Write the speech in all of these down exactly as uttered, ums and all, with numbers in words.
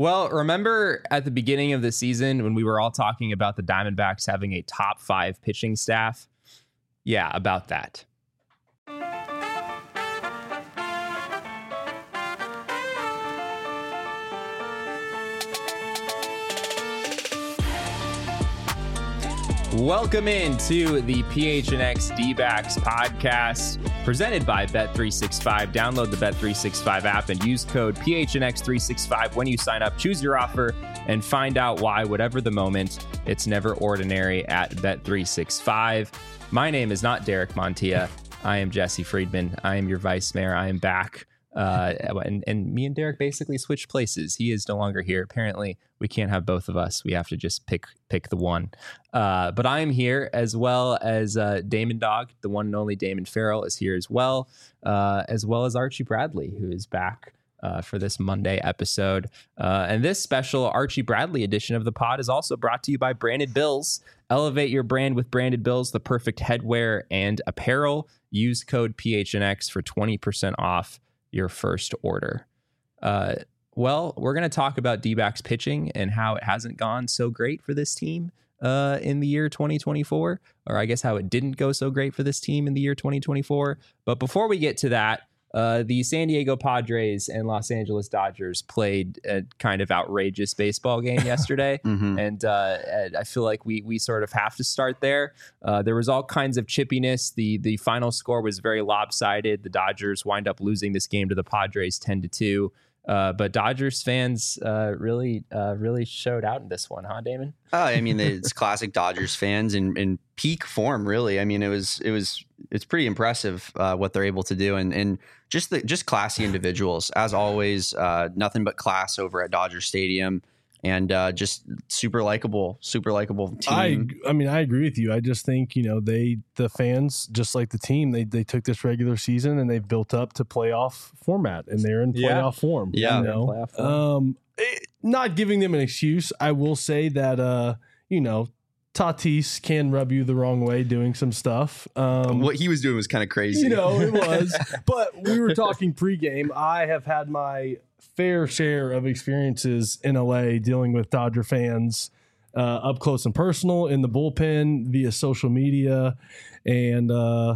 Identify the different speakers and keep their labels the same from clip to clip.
Speaker 1: Well, remember at the beginning of the season when we were all talking about the Diamondbacks having a top five pitching staff? Yeah, about that. Welcome into the P H N X D-Backs podcast presented by Bet three sixty-five. Download the Bet three sixty-five app and use code P H N X three sixty-five when you sign up. Choose your offer and find out why, whatever the moment, it's never ordinary at Bet three sixty-five. My name is not Derek Montilla. I am Jesse Friedman. I am your vice mayor. I am back. Uh, and, and me and Derek basically switched places. He is no longer here. Apparently, we can't have both of us. We have to just pick pick the one. Uh, but I am here, as well as uh, Damon Dog, the one and only Damon Farrell is here as well, uh, as well as Archie Bradley, who is back uh, for this Monday episode. Uh, and this special Archie Bradley edition of the pod is also brought to you by Branded Bills. Elevate your brand with Branded Bills, the perfect headwear and apparel. Use code P H N X for twenty percent off your first order. Uh, well, we're going to talk about D-backs pitching and how it hasn't gone so great for this team uh, in the year twenty twenty-four, or I guess how it didn't go so great for this team in the year twenty twenty-four. But before we get to that, uh, the San Diego Padres and Los Angeles Dodgers played a kind of outrageous baseball game yesterday. mm-hmm. And uh, I feel like we we sort of have to start there. Uh, there was all kinds of chippiness. The the final score was very lopsided. The Dodgers wind up losing this game to the Padres ten to two. Uh, but Dodgers fans uh, really, uh, really showed out in this one, huh, Damon?
Speaker 2: Oh, I mean, it's classic Dodgers fans in, in peak form, really. I mean, it was, it was, it's pretty impressive uh, what they're able to do, and and just the just classy individuals as always. Uh, nothing but class over at Dodger Stadium, and uh, just super likable, super likable team.
Speaker 3: I, I mean, I agree with you. I just think, you know, they, the fans, just like the team, they they took this regular season and they've built up to playoff format, and they're in playoff
Speaker 1: yeah.
Speaker 3: form.
Speaker 2: Yeah.
Speaker 3: You know? form. Um, it, not giving them an excuse. I will say that, uh, you know, Tatis can rub you the wrong way doing some stuff. Um,
Speaker 2: what he was doing was kind of crazy.
Speaker 3: You know, it was. But we were talking pregame. I have had my fair share of experiences in L A dealing with Dodger fans uh, up close and personal, in the bullpen, via social media, and uh,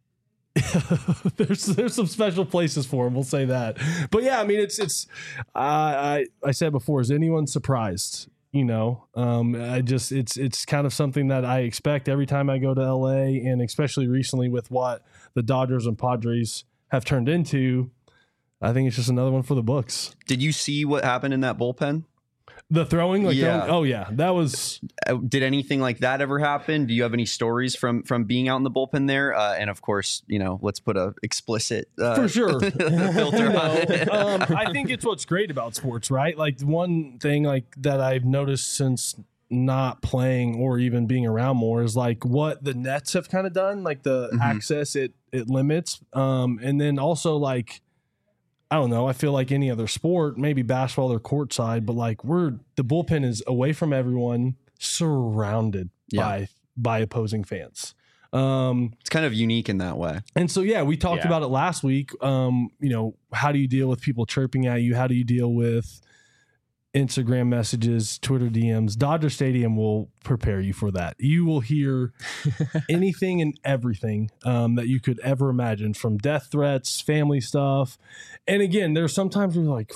Speaker 3: there's there's some special places for them. We'll say that. But yeah, I mean, it's it's. Uh, I I said before, is anyone surprised? You know, um, I just it's it's kind of something that I expect every time I go to L A, and especially recently with what the Dodgers and Padres have turned into. I think it's just another one for the books.
Speaker 2: Did you see what happened in that bullpen?
Speaker 3: The throwing? Like
Speaker 2: yeah.
Speaker 3: throwing, oh, yeah. That was...
Speaker 2: Did anything like that ever happen? Do you have any stories from from being out in the bullpen there? Uh, and, of course, you know, let's put a explicit uh,
Speaker 3: for sure
Speaker 2: filter
Speaker 3: no,
Speaker 2: on it.
Speaker 3: um, I think it's what's great about sports, right? Like, one thing like that I've noticed since not playing or even being around more is like what the Nets have kind of done, like the mm-hmm. access it, it limits. Um, and then also like, I don't know. I feel like any other sport, maybe basketball or courtside, but like we're the bullpen is away from everyone, surrounded yeah. by by opposing fans. Um,
Speaker 2: it's kind of unique in that way.
Speaker 3: And so, yeah, we talked yeah. about it last week. Um, you know, how do you deal with people chirping at you? How do you deal with Instagram messages, Twitter D Ms? Dodger Stadium will prepare you for that. You will hear anything and everything um, that you could ever imagine, from death threats, family stuff. And again, there's sometimes we're like,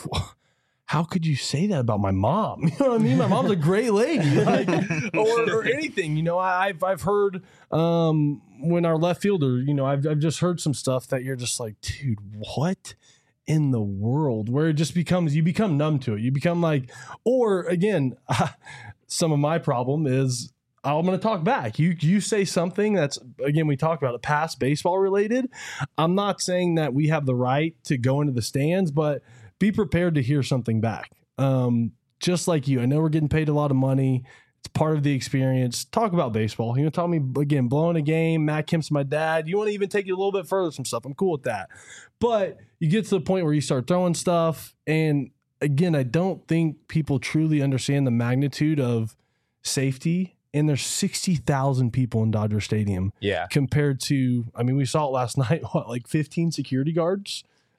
Speaker 3: how could you say that about my mom? You know what I mean? My mom's a great lady, like, or, or anything. You know, I, I've I've heard um, when our left fielder, you know, I've I've just heard some stuff that you're just like, dude, what in the world? Where it just becomes, you become numb to it. You become like, or again, uh, some of my problem is I'm going to talk back. You you say something that's, again, we talked about it, past baseball related. I'm not saying that we have the right to go into the stands, but be prepared to hear something back. Um, just like you, I know we're getting paid a lot of money. It's part of the experience. Talk about baseball. You know, tell me, again, blowing a game, Matt Kemp's my dad. You want to even take it a little bit further, some stuff. I'm cool with that. But you get to the point where you start throwing stuff. And again, I don't think people truly understand the magnitude of safety. And there's sixty thousand people in Dodger Stadium.
Speaker 1: Yeah.
Speaker 3: Compared to, I mean, we saw it last night, what, like fifteen security guards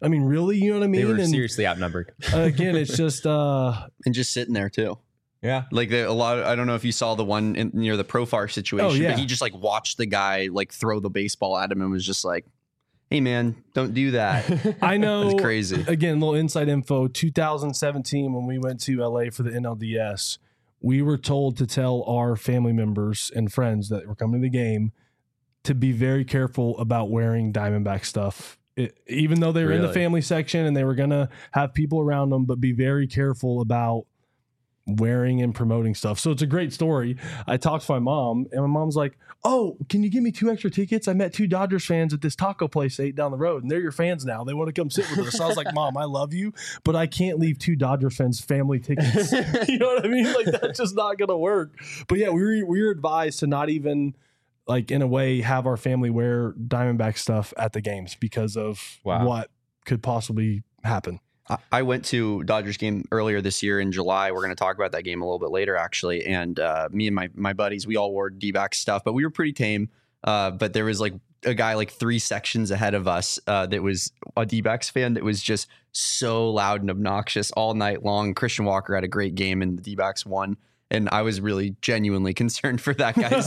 Speaker 3: I mean, really, you know what I mean?
Speaker 1: They were
Speaker 3: and
Speaker 1: seriously outnumbered.
Speaker 3: again, it's just uh,
Speaker 2: and just sitting there too.
Speaker 1: Yeah.
Speaker 2: Like the, a lot of, I don't know if you saw the one in, near the Profar situation,
Speaker 3: Oh, yeah.
Speaker 2: but he just like watched the guy like throw the baseball at him and was just like, hey man, don't do that.
Speaker 3: I know.
Speaker 2: It's crazy.
Speaker 3: Again, little inside info. two thousand seventeen, when we went to L A for the N L D S, we were told to tell our family members and friends that were coming to the game to be very careful about wearing Diamondback stuff. It, even though they were in the
Speaker 2: Really?
Speaker 3: family section and they were going to have people around them, but be very careful about wearing and promoting stuff. So it's a great story. I talked to my mom, and my mom's like, oh, can you give me two extra tickets? I met two Dodgers fans at this taco place eight down the road, and they're your fans now. They want to come sit with us. So I was like, Mom, I love you, but I can't leave two Dodger fans family tickets. You know what I mean? Like, that's just not going to work. But yeah, we were, we were advised to not even, like, in a way, have our family wear Diamondback stuff at the games because of
Speaker 1: Wow.
Speaker 3: what could possibly happen.
Speaker 2: I- I went to Dodgers game earlier this year in July. We're going to talk about that game a little bit later, actually. And uh, me and my my buddies, we all wore D-back stuff, but we were pretty tame. Uh, but there was like a guy like three sections ahead of us uh, that was a D-backs fan that was just so loud and obnoxious all night long. Christian Walker had a great game and the D-backs won. And I was really genuinely concerned for that guy's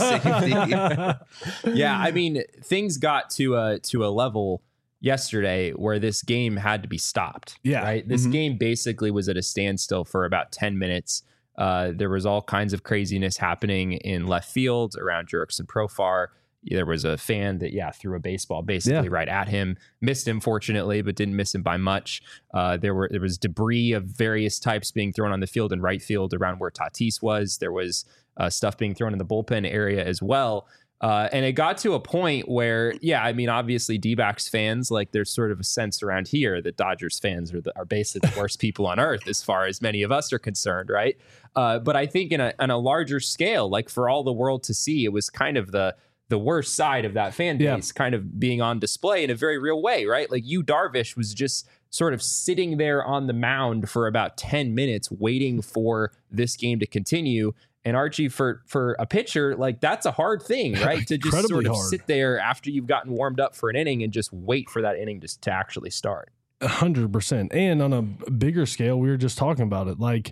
Speaker 2: safety.
Speaker 1: Yeah, I mean, things got to a to a level yesterday where this game had to be stopped.
Speaker 3: Yeah.
Speaker 1: Right. This
Speaker 2: Mhm.
Speaker 1: game basically was at a standstill for about ten minutes. Uh, there was all kinds of craziness happening in left field around Jurickson Profar. There was a fan that, yeah, threw a baseball basically
Speaker 3: Yeah.
Speaker 1: right at him, missed him fortunately, but didn't miss him by much. Uh, there were there was debris of various types being thrown on the field and right field around where Tatis was. There was uh, stuff being thrown in the bullpen area as well. Uh, and it got to a point where, yeah, I mean, obviously D-backs fans, like there's sort of a sense around here that Dodgers fans are, the, are basically the worst people on earth as far as many of us are concerned, right? Uh, but I think in a, on a larger scale, like for all the world to see, it was kind of the the worst side of that fan base
Speaker 3: Yeah.
Speaker 1: kind of being on display in a very real way, right? Like Yu Darvish was just sort of sitting there on the mound for about ten minutes waiting for this game to continue. And Archie, for for a pitcher, like that's a hard thing, right? To just
Speaker 3: Incredibly
Speaker 1: sort of
Speaker 3: hard.
Speaker 1: sit there after you've gotten warmed up for an inning and just wait for that inning to, to actually start.
Speaker 3: A hundred percent. And on a bigger scale, we were just talking about it. Like,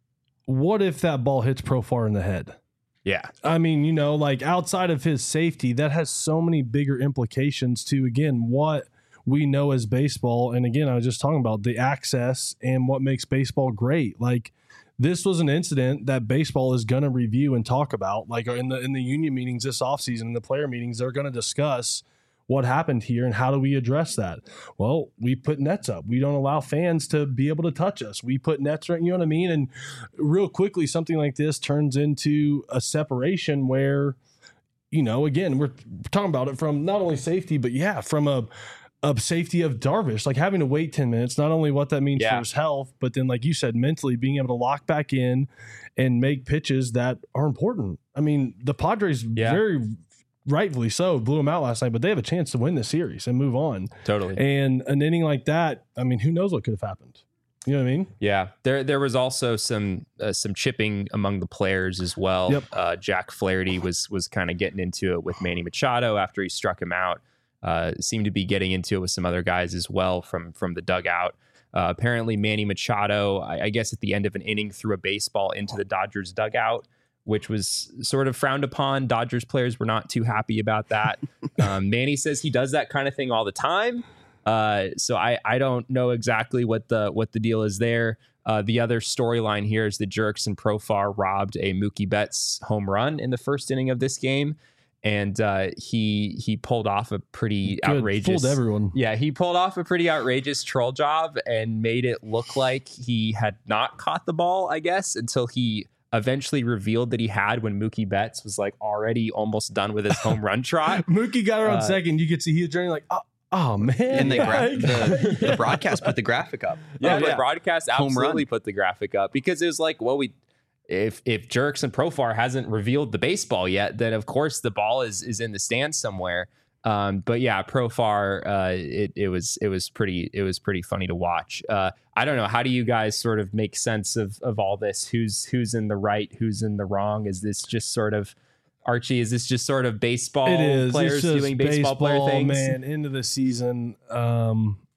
Speaker 3: what if that ball hits Profar in the head?
Speaker 1: Yeah.
Speaker 3: I mean, you know, like outside of his safety, that has so many bigger implications to, again, what we know as baseball. And again, I was just talking about the access and what makes baseball great. Like, this was an incident that baseball is going to review and talk about. Like in the in the union meetings this offseason, in the player meetings, they're going to discuss what happened here and how do we address that. Well, we put nets up. We don't allow fans to be able to touch us. We put nets right, you know what I mean? And real quickly, something like this turns into a separation where, you know, again, we're talking about it from not only safety, but yeah, from a of safety of Darvish, like having to wait ten minutes, not only what that means
Speaker 1: Yeah.
Speaker 3: for his health, but then, like you said, mentally being able to lock back in and make pitches that are important. I mean, the Padres
Speaker 1: Yeah.
Speaker 3: very rightfully so blew him out last night, but they have a chance to win the series and move on.
Speaker 1: Totally.
Speaker 3: And an inning like that, I mean, who knows what could have happened? You know what I mean?
Speaker 1: Yeah, there there was also some uh, some chipping among the players as well.
Speaker 3: Yep.
Speaker 1: Uh, Jack Flaherty was was kind of getting into it with Manny Machado after he struck him out. Uh, seemed to be getting into it with some other guys as well from from the dugout. Uh, apparently, Manny Machado, I, I guess at the end of an inning, threw a baseball into the Dodgers dugout, which was sort of frowned upon. Dodgers players were not too happy about that. um, Manny says he does that kind of thing all the time. Uh, so I, I don't know exactly what the what the deal is there. Uh, the other storyline here is that Jurickson Profar robbed a Mookie Betts home run in the first inning of this game, and uh, he he pulled off a pretty
Speaker 3: Good.
Speaker 1: outrageous.
Speaker 3: Fooled everyone.
Speaker 1: Yeah, he pulled off a pretty outrageous troll job and made it look like he had not caught the ball, I guess, until he eventually revealed that he had when Mookie Betts was like already almost done with his home run trot.
Speaker 3: Mookie got her on
Speaker 1: Uh,
Speaker 3: second. You could see he was journeying like, oh, oh man.
Speaker 2: And the, gra-
Speaker 3: Like-
Speaker 2: the the broadcast put the graphic up.
Speaker 1: Yeah,
Speaker 3: Oh,
Speaker 1: the
Speaker 3: yeah.
Speaker 1: broadcast
Speaker 2: Home
Speaker 1: absolutely
Speaker 2: run.
Speaker 1: put the graphic up because it was like, well, we if if Jurickson Profar hasn't revealed the baseball yet, then of course the ball is is in the stands somewhere. Um, but yeah, Profar, uh, it it was it was pretty it was pretty funny to watch. Uh, I don't know, how do you guys sort of make sense of of all this? Who's who's in the right? Who's in the wrong? Is this just sort of Archie? Is this just sort of baseball
Speaker 3: It is.
Speaker 1: players
Speaker 3: It's just
Speaker 1: doing baseball, player things?
Speaker 3: Man, into the season. Um,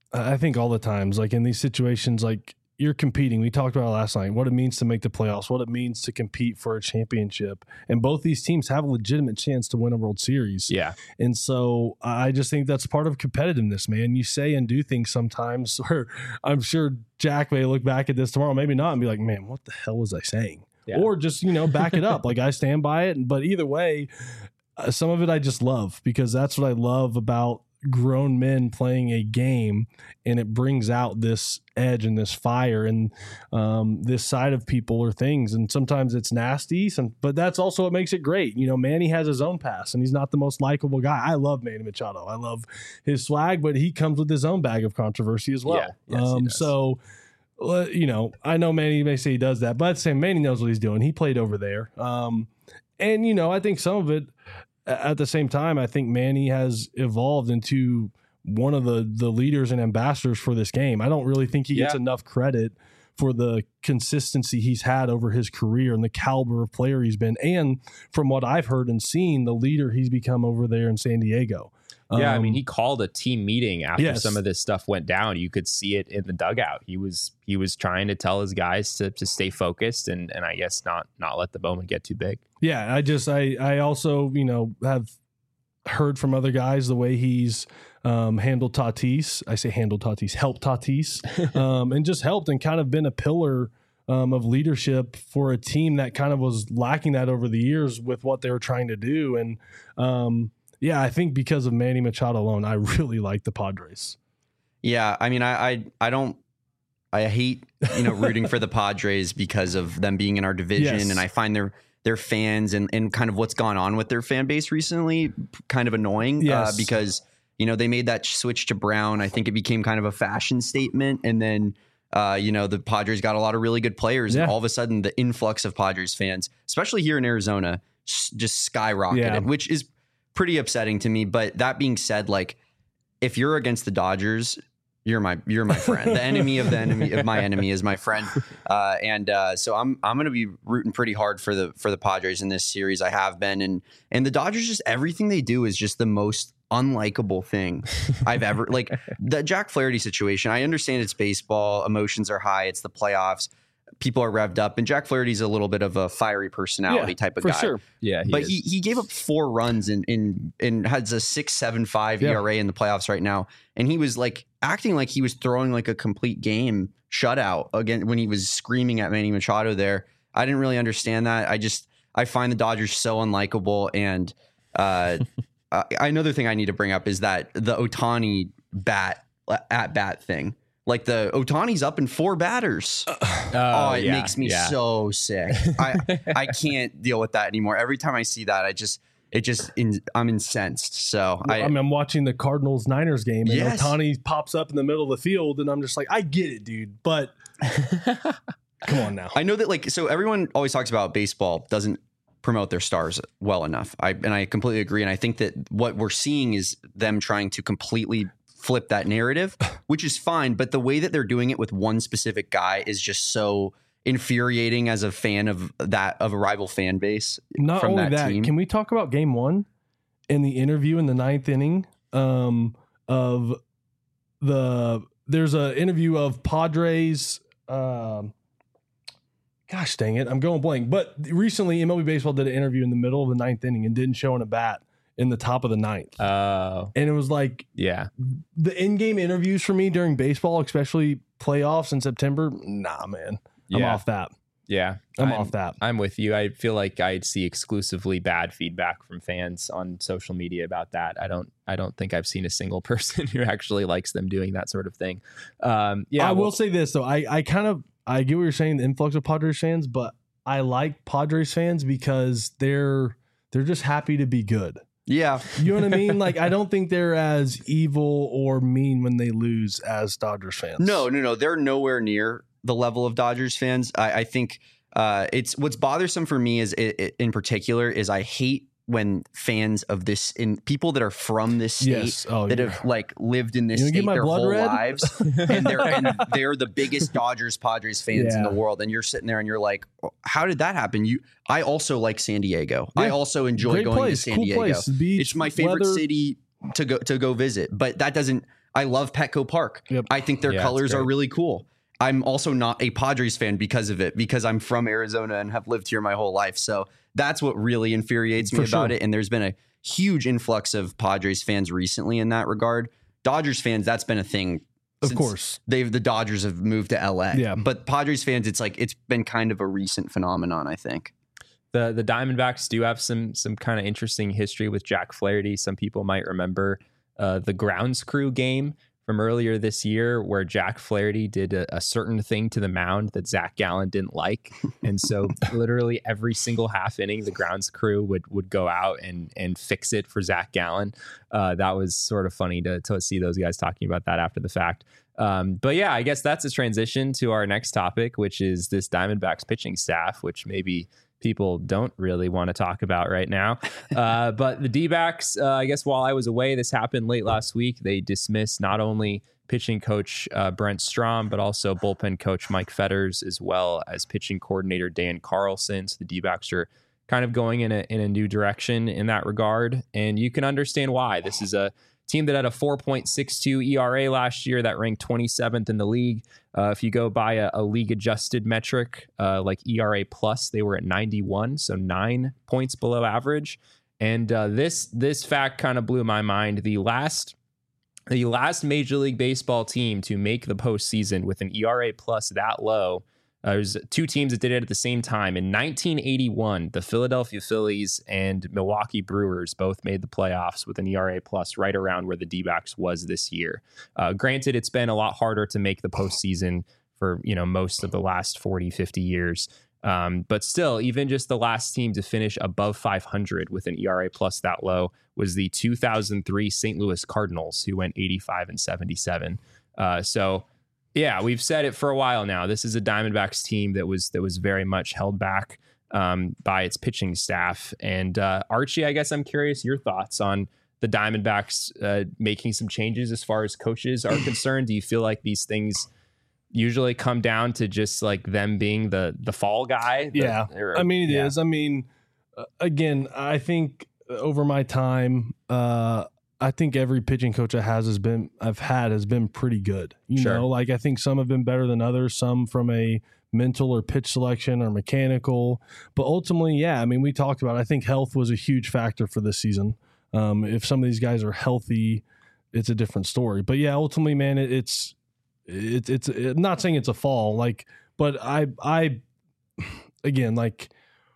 Speaker 3: I think all the times, like in these situations, like you're competing. We talked about it last night, what it means to make the playoffs, what it means to compete for a championship. And both these teams have a legitimate chance to win a World Series.
Speaker 1: Yeah.
Speaker 3: And so I just think that's part of competitiveness, man. You say and do things sometimes where I'm sure Jack may look back at this tomorrow, maybe not, and be like, man, what the hell was I saying? Yeah. Or just, you know, back it up. Like I stand by it. But either way, uh, some of it I just love because that's what I love about grown men playing a game, and it brings out this edge and this fire and um, this side of people or things. And sometimes it's nasty, some, but that's also what makes it great. You know, Manny has his own past, and he's not the most likable guy. I love Manny Machado. I love his swag, but he comes with his own bag of controversy as well.
Speaker 1: Yeah, yes,
Speaker 3: um, so, uh, you know, I know Manny may say he does that, but at the same, Manny knows what he's doing. He played over there. Um, and, you know, I think some of it, at the same time, I think Manny has evolved into one of the the leaders and ambassadors for this game. I don't really think he gets yeah. enough credit for the consistency he's had over his career and the caliber of player he's been. And from what I've heard and seen, the leader he's become over there in San Diego.
Speaker 1: Yeah,
Speaker 3: um,
Speaker 1: I mean, he called a team meeting after
Speaker 3: yes.
Speaker 1: some of this stuff went down. You could see it in the dugout. He was he was trying to tell his guys to to stay focused and and I guess not not let the moment get too big.
Speaker 3: Yeah, I just I I also, you know, have heard from other guys the way he's um, handled Tatis. I say handled Tatis, helped Tatis, um, and just helped and kind of been a pillar um, of leadership for a team that kind of was lacking that over the years with what they were trying to do. And um, yeah, I think because of Manny Machado alone, I really like the Padres.
Speaker 2: Yeah, I mean, I I, I don't. I hate, you know, rooting for the Padres because of them being in our division,
Speaker 3: yes.
Speaker 2: and I find their their fans and, and kind of what's gone on with their fan base recently kind of annoying.
Speaker 3: Yes.
Speaker 2: Uh, because, you know, they made that switch to brown. I think it became kind of a fashion statement, and then uh, you know, the Padres got a lot of really good players, yeah. and all of a sudden the influx of Padres fans, especially here in Arizona, just skyrocketed,
Speaker 3: yeah.
Speaker 2: which is pretty upsetting to me. But that being said, like, if you're against the Dodgers, You're my you're my friend. The enemy of the enemy of my enemy is my friend, uh, and uh, so I'm I'm going to be rooting pretty hard for the for the Padres in this series. I have been, and and the Dodgers, just everything they do is just the most unlikable thing I've ever like. The Jack Flaherty situation. I understand it's baseball, emotions are high, it's the playoffs, people are revved up, and Jack Flaherty's a little bit of a fiery personality
Speaker 3: yeah,
Speaker 2: type of
Speaker 3: for
Speaker 2: guy.
Speaker 3: Sure.
Speaker 1: Yeah, he
Speaker 2: but
Speaker 1: is.
Speaker 2: he he gave up four runs and in, in, in has a six seven five
Speaker 3: yeah.
Speaker 2: E R A in the playoffs right now, and he was like acting like he was throwing like a complete game shutout again when he was screaming at Manny Machado there. I didn't really understand that. I just I find the Dodgers so unlikable, and uh, uh, another thing I need to bring up is that the Ohtani bat at bat thing. Like the Ohtani's up in four batters. Uh, oh, it
Speaker 1: yeah,
Speaker 2: makes me
Speaker 1: yeah.
Speaker 2: so sick. I I can't deal with that anymore. Every time I see that, I just it just in, I'm incensed. So
Speaker 3: well,
Speaker 2: I,
Speaker 3: I mean, I'm watching the Cardinals Niners game, and
Speaker 2: yes.
Speaker 3: Ohtani pops up in the middle of the field, and I'm just like, I get it, dude, but come on now.
Speaker 2: I know that like so everyone always talks about baseball doesn't promote their stars well enough. I and I completely agree, and I think that what we're seeing is them trying to completely flip that narrative, which is fine, but the way that they're doing it with one specific guy is just so infuriating as a fan of that of a rival fan base.
Speaker 3: Not
Speaker 2: from
Speaker 3: only
Speaker 2: that,
Speaker 3: that,
Speaker 2: team.
Speaker 3: Can we talk about game one in the interview in the ninth inning um, of the there's an interview of Padres. Um, gosh dang it, I'm going blank. But recently, M L B Baseball did an interview in the middle of the ninth inning and didn't show in a bat in the top of the ninth.
Speaker 1: Oh, uh,
Speaker 3: and it was like,
Speaker 1: yeah,
Speaker 3: the in-game interviews for me during baseball, especially playoffs in September. Nah, man, I'm
Speaker 1: yeah.
Speaker 3: off that.
Speaker 1: Yeah,
Speaker 3: I'm, I'm off that.
Speaker 1: I'm with you. I feel like I'd see exclusively bad feedback from fans on social media about that. I don't. I don't think I've seen a single person who actually likes them doing that sort of thing. Um, yeah,
Speaker 3: I
Speaker 1: well,
Speaker 3: will say this though. I I kind of I get what you're saying, the influx of Padres fans, but I like Padres fans because they're they're just happy to be good.
Speaker 2: Yeah.
Speaker 3: You know what I mean? Like, I don't think they're as evil or mean when they lose as Dodgers fans.
Speaker 2: No, no, no. They're nowhere near the level of Dodgers fans. I, I think uh, it's what's bothersome for me is it, it, in particular is I hate when fans of this in people that are from this state
Speaker 3: yes. oh,
Speaker 2: that
Speaker 3: yeah.
Speaker 2: have like lived in this
Speaker 3: you
Speaker 2: state their whole
Speaker 3: red?
Speaker 2: lives and they're and they're the biggest Dodgers Padres fans
Speaker 3: yeah.
Speaker 2: in the world, and you're sitting there and you're like, how did that happen? You I also like San Diego. Yeah. I also enjoy
Speaker 3: Great
Speaker 2: going
Speaker 3: place.
Speaker 2: to San
Speaker 3: cool
Speaker 2: Diego.
Speaker 3: Place. Beach,
Speaker 2: it's my favorite
Speaker 3: weather.
Speaker 2: city to go to go visit, but that doesn't I love Petco Park.
Speaker 3: Yep.
Speaker 2: I think their
Speaker 1: Yeah,
Speaker 2: colors
Speaker 1: it's
Speaker 2: are
Speaker 1: great.
Speaker 2: really cool. I'm also not a Padres fan because of it, because I'm from Arizona and have lived here my whole life. So that's what really infuriates me
Speaker 3: For
Speaker 2: about
Speaker 3: sure.
Speaker 2: it. And there's been a huge influx of Padres fans recently in that regard. Dodgers fans, that's been a thing.
Speaker 3: Of
Speaker 2: since
Speaker 3: course.
Speaker 2: They've the Dodgers have moved to L A.
Speaker 3: Yeah.
Speaker 2: But Padres fans, it's like it's been kind of a recent phenomenon, I think.
Speaker 1: The the Diamondbacks do have some some kind of interesting history with Jack Flaherty. Some people might remember uh, the grounds crew game from earlier this year where Jack Flaherty did a, a certain thing to the mound that Zach Gallen didn't like. And so literally every single half inning, the grounds crew would would go out and and fix it for Zach Gallen. Uh, that was sort of funny to, to see those guys talking about that after the fact. Um, but yeah, I guess that's a transition to our next topic, which is this Diamondbacks pitching staff, which maybe people don't really want to talk about right now. Uh, but the D-backs, uh, I guess while I was away, this happened late last week. They dismissed not only pitching coach uh, Brent Strom, but also bullpen coach Mike Fetters, as well as pitching coordinator Dan Carlson. So the D-backs are kind of going in a, in a new direction in that regard. And you can understand why. This is a team that had a four point six two E R A last year that ranked twenty-seventh in the league. Uh, if you go by a, a league adjusted metric uh, like E R A plus, they were at ninety-one, so nine points below average. And uh, this this fact kind of blew my mind. The last the last Major League Baseball team to make the postseason with an E R A plus that low. Uh, there's two teams that did it at the same time. In nineteen eighty-one, the Philadelphia Phillies and Milwaukee Brewers both made the playoffs with an E R A plus right around where the D-backs was this year. Uh, granted, it's been a lot harder to make the postseason for, you know, most of the last forty, fifty years. Um, but still, even just the last team to finish above five hundred with an E R A plus that low was the two thousand three Saint Louis Cardinals, who went eighty-five and seventy-seven. Uh, so... Yeah, we've said it for a while now. This is a Diamondbacks team that was that was very much held back um, by its pitching staff. And uh, Archie, I guess I'm curious your thoughts on the Diamondbacks uh, making some changes as far as coaches are concerned. Do you feel like these things usually come down to just like them being the the fall guy? The,
Speaker 3: Yeah,
Speaker 1: or,
Speaker 3: I mean it
Speaker 1: yeah.
Speaker 3: is. I mean, uh, again, I think over my time, uh, I think every pitching coach I has has been I've had has been pretty good. You
Speaker 1: Sure.
Speaker 3: know, like I think some have been better than others. Some from a mental or pitch selection or mechanical, but ultimately, yeah. I mean, we talked about. I think health was a huge factor for this season. Um, if some of these guys are healthy, it's a different story. But yeah, ultimately, man, it, it's it, it's it, I'm not saying it's a fall, like, but I I again like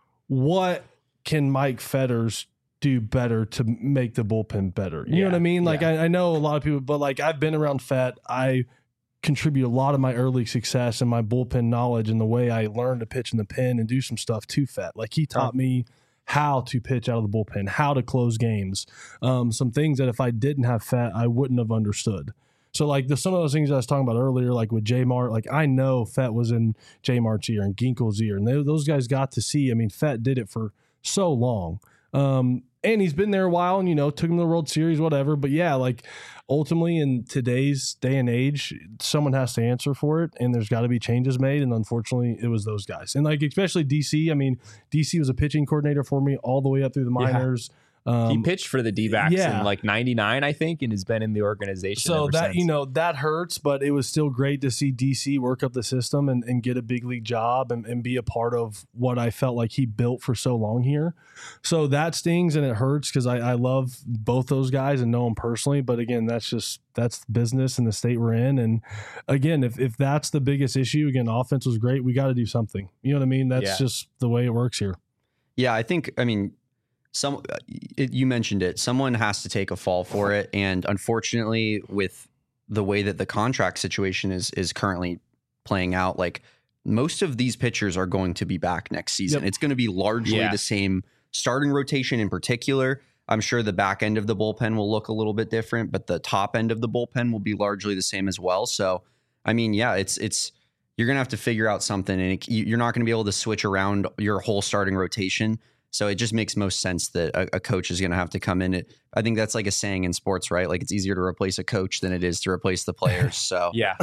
Speaker 3: what can Mike Fetters do better to make the bullpen better? You
Speaker 1: Yeah,
Speaker 3: know what I mean? Like
Speaker 1: yeah.
Speaker 3: I, I know a lot of people, but like I've been around Fett. I contribute a lot of my early success and my bullpen knowledge and the way I learned to pitch in the pen and do some stuff to Fett. Like he taught me how to pitch out of the bullpen, how to close games, um, some things that if I didn't have Fett, I wouldn't have understood. So like the, some of those things I was talking about earlier, like with J Mart, like I know Fett was in J Mart's ear and Ginkel's ear, and they, those guys got to see. I mean, Fett did it for so long. Um, and he's been there a while and, you know, took him to the World Series, whatever. But yeah, like ultimately in today's day and age, someone has to answer for it and there's got to be changes made. And unfortunately it was those guys. And like, especially D C, I mean, D C was a pitching coordinator for me all the way up through the minors. Um,
Speaker 1: He pitched for the D-backs
Speaker 3: yeah.
Speaker 1: in like ninety-nine, I think, and has been in the organization
Speaker 3: So
Speaker 1: ever
Speaker 3: that,
Speaker 1: since.
Speaker 3: you know, that hurts, but it was still great to see D C work up the system and, and get a big league job and, and be a part of what I felt like he built for so long here. So that stings and it hurts because I, I love both those guys and know them personally. But again, that's just, that's business in the state we're in. And again, if, if that's the biggest issue, again, offense was great. We got to do something. You know what I mean? That's
Speaker 1: Yeah.
Speaker 3: just the way it works here.
Speaker 2: Yeah, I think, I mean, some it, you mentioned it. Someone has to take a fall for it, and unfortunately, with the way that the contract situation is is currently playing out, like most of these pitchers are going to be back next season.
Speaker 3: Yep.
Speaker 2: It's going to be largely
Speaker 1: Yeah.
Speaker 2: the same starting rotation in particular. I'm sure the back end of the bullpen will look a little bit different, but the top end of the bullpen will be largely the same as well. So, I mean, yeah, it's it's you're going to have to figure out something, and it, you're not going to be able to switch around your whole starting rotation. So it just makes most sense that a, a coach is going to have to come in. It, I think that's like a saying in sports, right? Like it's easier to replace a coach than it is to replace the players. So
Speaker 1: yeah,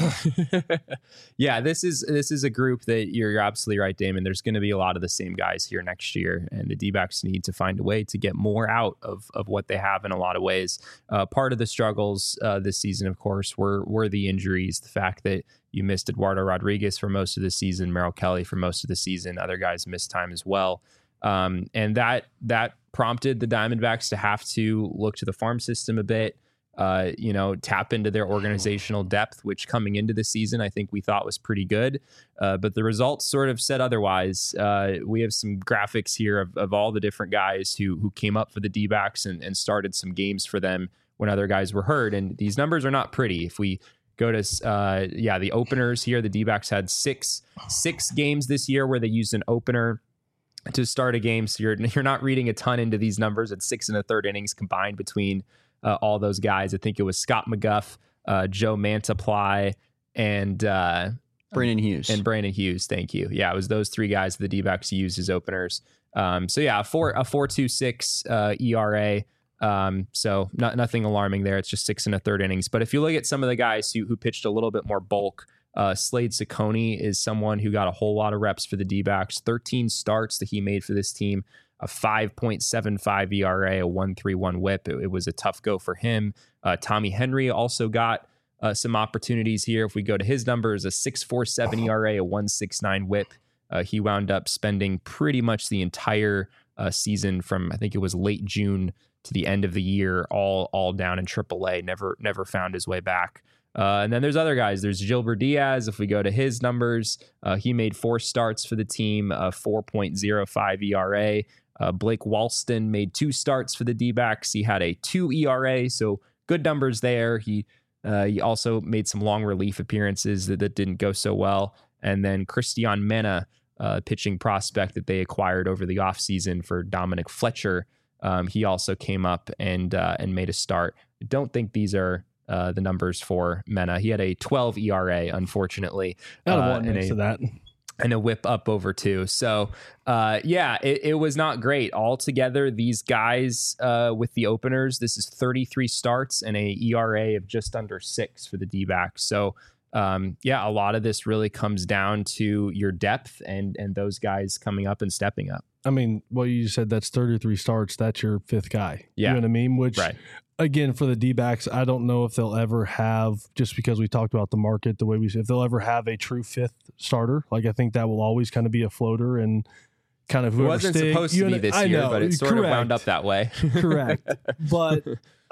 Speaker 1: yeah. This is this is a group that you're, you're absolutely right, Damon. There's going to be a lot of the same guys here next year, and the D-backs need to find a way to get more out of of what they have in a lot of ways. Uh, part of the struggles uh, this season, of course, were were the injuries. The fact that you missed Eduardo Rodriguez for most of the season, Merrill Kelly for most of the season. Other guys missed time as well. Um, and that that prompted the Diamondbacks to have to look to the farm system a bit, uh, you know, tap into their organizational depth, which coming into the season, I think we thought was pretty good. Uh, but the results sort of said otherwise. Uh, we have some graphics here of, of all the different guys who who came up for the D-backs and, and started some games for them when other guys were hurt. And these numbers are not pretty. If we go to, uh, yeah, the openers here, the D-backs had six six games this year where they used an opener to start a game. So you're you're not reading a ton into these numbers. It's six and a third innings combined between uh, all those guys. I think it was Scott McGuff, uh, Joe Mantiply, and uh,
Speaker 2: Brandon Hughes.
Speaker 1: And Brandon Hughes, thank you. Yeah, it was those three guys the D-backs used as openers. Um, so yeah, a four a four two six uh, E R A. Um, so not nothing alarming there. It's just six and a third innings. But if you look at some of the guys who who pitched a little bit more bulk, Uh, Slade Ciccone is someone who got a whole lot of reps for the D-backs, thirteen starts that he made for this team, a five point seven five E R A, a one point three one whip. It, it was a tough go for him. Uh, Tommy Henry also got uh, some opportunities here. If we go to his numbers, a six point four seven E R A, a one point six nine whip. Uh, he wound up spending pretty much the entire uh, season from, I think it was late June to the end of the year, all all down in triple A, never never found his way back. Uh, and then there's other guys. There's Gilbert Diaz. If we go to his numbers, uh, he made four starts for the team, a four point oh five E R A. Uh, Blake Walston made two starts for the D-backs. He had a two E R A, so good numbers there. He uh, he also made some long relief appearances that, that didn't go so well. And then Christian Mena, uh, pitching prospect that they acquired over the offseason for Dominic Fletcher, um, he also came up and uh, and made a start. I don't think these are Uh, the numbers for Mena. He had a twelve E R A, unfortunately,
Speaker 3: uh,
Speaker 1: uh,
Speaker 3: and, a, that.
Speaker 1: and a whip up over two. So, uh, yeah, it, it was not great. Altogether, these guys uh, with the openers, this is thirty-three starts and a E R A of just under six for the D-backs. So, um, yeah, a lot of this really comes down to your depth and and those guys coming up and stepping up.
Speaker 3: I mean, well, you said that's thirty-three starts. That's your fifth guy.
Speaker 1: Yeah.
Speaker 3: You know what I mean? Which,
Speaker 1: right.
Speaker 3: Again, for the D-backs, I don't know if they'll ever have, just because we talked about the market, the way we if they'll ever have a true fifth starter. Like, I think that will always kind of be a floater and kind of
Speaker 1: it
Speaker 3: whoever
Speaker 1: wasn't
Speaker 3: stick,
Speaker 1: supposed to be this
Speaker 3: I
Speaker 1: year,
Speaker 3: know,
Speaker 1: but it sort
Speaker 3: correct.
Speaker 1: of wound up that way.
Speaker 3: Correct. But,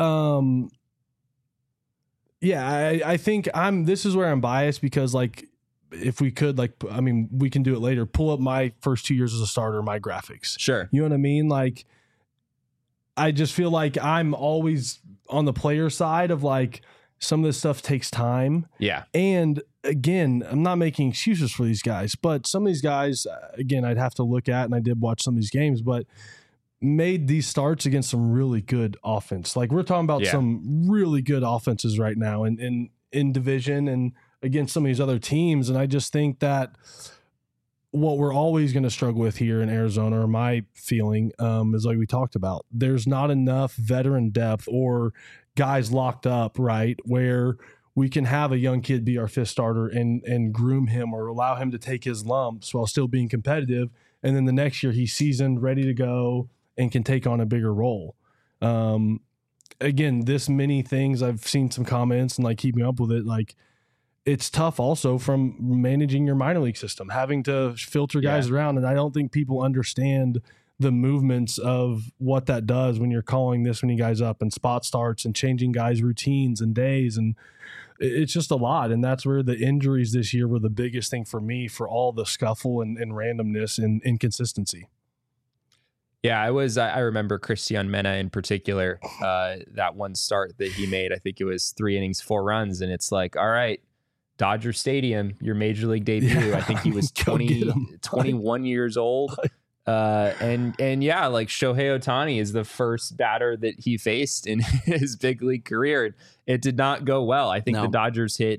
Speaker 3: um, yeah, I, I think I'm, this is where I'm biased because, like, if we could, like, I mean, we can do it later, pull up my first two years as a starter, my graphics.
Speaker 1: Sure.
Speaker 3: You know what I mean? Like, I just feel like I'm always on the player side of like some of this stuff takes time.
Speaker 1: Yeah.
Speaker 3: And again, I'm not making excuses for these guys, but some of these guys, again, I'd have to look at, and I did watch some of these games, but made these starts against some really good offense. Like we're talking about yeah. some really good offenses right now in, in, in division and against some of these other teams. And I just think that what we're always going to struggle with here in Arizona, or my feeling, um, is like we talked about, there's not enough veteran depth or guys locked up, right, where we can have a young kid be our fifth starter and and groom him or allow him to take his lumps while still being competitive. And then the next year he's seasoned, ready to go, and can take on a bigger role. Um, again, this many things, I've seen some comments and like keeping up with it, like, it's tough also from managing your minor league system, having to filter guys yeah. around. And I don't think people understand the movements of what that does when you're calling this many guys up and spot starts and changing guys' routines and days. And it's just a lot. And that's where the injuries this year were the biggest thing for me, for all the scuffle and, and randomness and inconsistency.
Speaker 1: Yeah, I was, I remember Christian Mena in particular, uh, that one start that he made, I think it was three innings, four runs. And it's like, all right, Dodger Stadium, your major league debut. Yeah. I think he was twenty, twenty-one years old. Uh, and, and yeah, like Shohei Ohtani is the first batter that he faced in his big league career. It did not go well. I think no. the Dodgers hit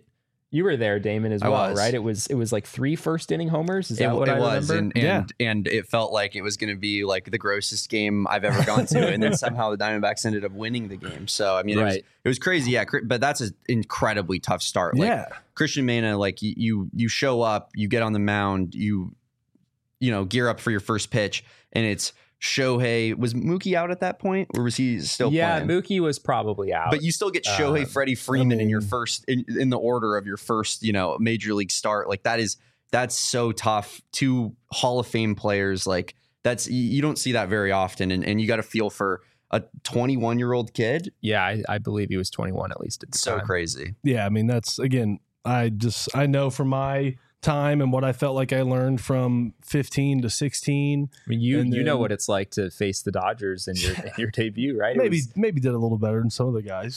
Speaker 1: You were there, Damon, as
Speaker 2: I
Speaker 1: well,
Speaker 2: was.
Speaker 1: right? It was it was like three first inning homers. Is
Speaker 2: It,
Speaker 1: that what
Speaker 2: it
Speaker 1: I
Speaker 2: was,
Speaker 1: remember?
Speaker 2: and
Speaker 3: Yeah.
Speaker 2: and, and it felt like it was going to be like the grossest game I've ever gone to, and then somehow the Diamondbacks ended up winning the game. So I mean, it, was,
Speaker 1: Right.
Speaker 2: it was crazy, yeah. cr- But that's an incredibly tough start. Like,
Speaker 3: Yeah.
Speaker 2: Christian Mena, like you, you you show up, you get on the mound, you you know gear up for your first pitch, and it's Shohei. Was Mookie out at that point, or was he still
Speaker 1: Yeah,
Speaker 2: playing?
Speaker 1: Mookie was probably out.
Speaker 2: But you still get Shohei,
Speaker 1: Um,
Speaker 2: Freddie Freeman
Speaker 3: I
Speaker 2: in your
Speaker 3: mean-
Speaker 2: first in, in the order of your first, you know, major league start. Like that is that's so tough. Two Hall of Fame players, like that's you you don't see that very often, and, and you got to feel for a twenty-one year old kid.
Speaker 1: yeah, I, I believe he was twenty-one at least at the
Speaker 2: So
Speaker 1: time.
Speaker 2: crazy.
Speaker 3: Yeah, I mean that's again. I just I know from my time and what I felt like I learned from fifteen to sixteen.
Speaker 1: I mean, you
Speaker 3: And
Speaker 1: you know
Speaker 3: then-
Speaker 1: what it's like to face the Dodgers in your in your debut, right? It
Speaker 3: Maybe
Speaker 1: was-
Speaker 3: maybe did a little better than some of the guys.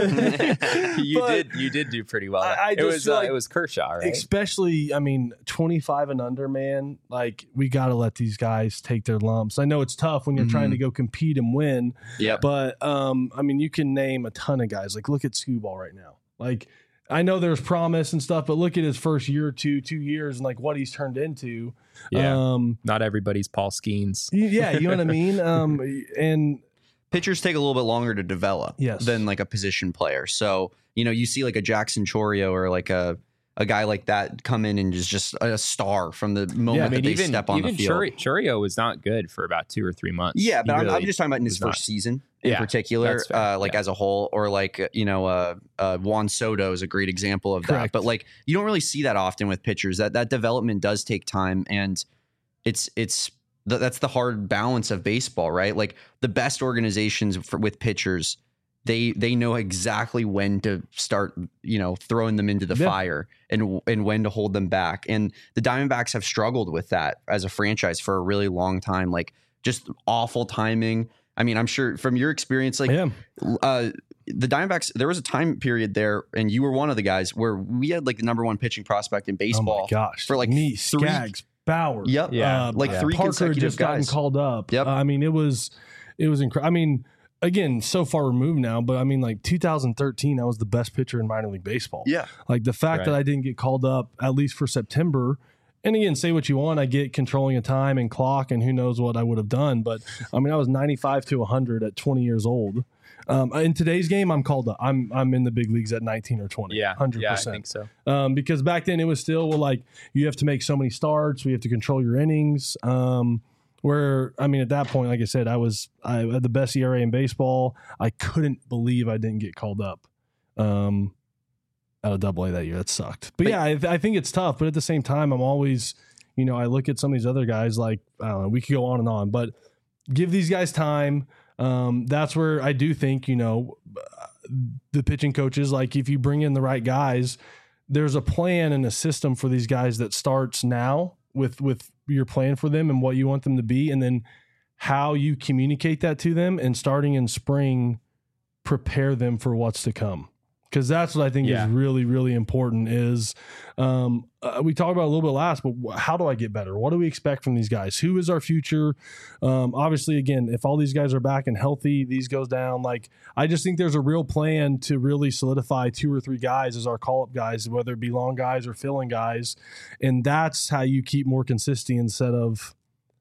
Speaker 1: you
Speaker 3: But
Speaker 1: did you did do pretty well.
Speaker 3: I- I
Speaker 1: it
Speaker 3: just
Speaker 1: was
Speaker 3: feel
Speaker 1: uh,
Speaker 3: like-
Speaker 1: it was Kershaw, right?
Speaker 3: Especially, I mean, twenty-five and under, man. Like we got to let these guys take their lumps. I know it's tough when you're
Speaker 2: Mhm.
Speaker 3: trying to go compete and win,
Speaker 2: Yep.
Speaker 3: but um, I mean, you can name a ton of guys. Like look at Scooball right now. Like I know there's promise and stuff, but look at his first year or two, two years, and like what he's turned into.
Speaker 1: Yeah.
Speaker 3: Um,
Speaker 1: Not everybody's Paul Skeens.
Speaker 3: y- yeah, you know what I mean. Um, and
Speaker 2: Pitchers take a little bit longer to develop
Speaker 3: Yes.
Speaker 2: than like a position player. So, you know, you see like a Jackson Chorio or like a a guy like that come in and is just a star from the moment
Speaker 3: Yeah,
Speaker 1: I mean,
Speaker 2: that they
Speaker 1: even
Speaker 2: step on
Speaker 1: even
Speaker 2: the field.
Speaker 1: Churi- Churio was not good for about two or three months.
Speaker 2: Yeah,
Speaker 1: He
Speaker 2: but I'm, I'm
Speaker 1: really
Speaker 2: just talking about in his
Speaker 1: was
Speaker 2: first
Speaker 1: not.
Speaker 2: season in
Speaker 1: Yeah,
Speaker 2: particular,
Speaker 1: that's fair.
Speaker 2: uh, like
Speaker 1: Yeah.
Speaker 2: as a whole, or like uh, you know, uh, uh, Juan Soto is a great example of that.
Speaker 3: Correct.
Speaker 2: But like, you don't really see that often with pitchers. That that development does take time, and it's it's th- that's the hard balance of baseball, right? Like the best organizations for, with pitchers, they they know exactly when to start, you know, throwing them into the
Speaker 3: Yeah.
Speaker 2: fire and and when to hold them back. And the Diamondbacks have struggled with that as a franchise for a really long time. Like just awful timing. I mean, I'm sure from your experience, like
Speaker 3: yeah,
Speaker 2: uh, the Diamondbacks, there was a time period there, and you were one of the guys where we had like the number one pitching prospect in
Speaker 3: oh
Speaker 2: baseball.
Speaker 3: my gosh,
Speaker 2: for, like,
Speaker 3: me,
Speaker 2: three-
Speaker 3: Skaggs, Bauer,
Speaker 2: Yep.
Speaker 1: Yeah.
Speaker 3: uh,
Speaker 2: Like
Speaker 1: Yeah.
Speaker 2: three
Speaker 3: Parker had
Speaker 2: consecutive
Speaker 3: just gotten
Speaker 2: guys.
Speaker 3: called up.
Speaker 2: Yep.
Speaker 3: Uh, I mean, it was it was incredible. I mean, again, so far removed now, but I mean, like two thousand thirteen, I was the best pitcher in minor league baseball.
Speaker 2: Yeah.
Speaker 3: Like the fact
Speaker 1: Right.
Speaker 3: that I didn't get called up at least for September. And again, say what you want. I get controlling of time and clock, and who knows what I would have done. But I mean, I was ninety-five to one hundred at twenty years old. Um, in today's game, I'm called up. I'm I'm in the big leagues at nineteen or twenty.
Speaker 1: Yeah,
Speaker 3: one hundred
Speaker 1: yeah, I
Speaker 3: percent.
Speaker 1: think so.
Speaker 3: Um, because back then it was still well, like you have to make so many starts, we have to control your innings. Um, where I mean, at that point, like I said, I was I had the best E R A in baseball. I couldn't believe I didn't get called up um, out of Double A that year. That sucked. But,
Speaker 2: But-
Speaker 3: yeah, I, I think it's tough. But at the same time, I'm always, you know, I look at some of these other guys. Like I don't know, we could go on and on, but give these guys time. Um, that's where I do think, you know, the pitching coaches, like if you bring in the right guys, there's a plan and a system for these guys that starts now with with your plan for them and what you want them to be, and then how you communicate that to them, and starting in spring, prepare them for what's to come. Because that's what I think
Speaker 1: Yeah.
Speaker 3: is really, really important is um, uh, we talked about it a little bit last, but wh- how do I get better? What do we expect from these guys? Who is our future? Um, obviously, again, if all these guys are back and healthy, these goes down. Like, I just think there's a real plan to really solidify two or three guys as our call-up guys, whether it be long guys or filling guys. And that's how you keep more consistency instead of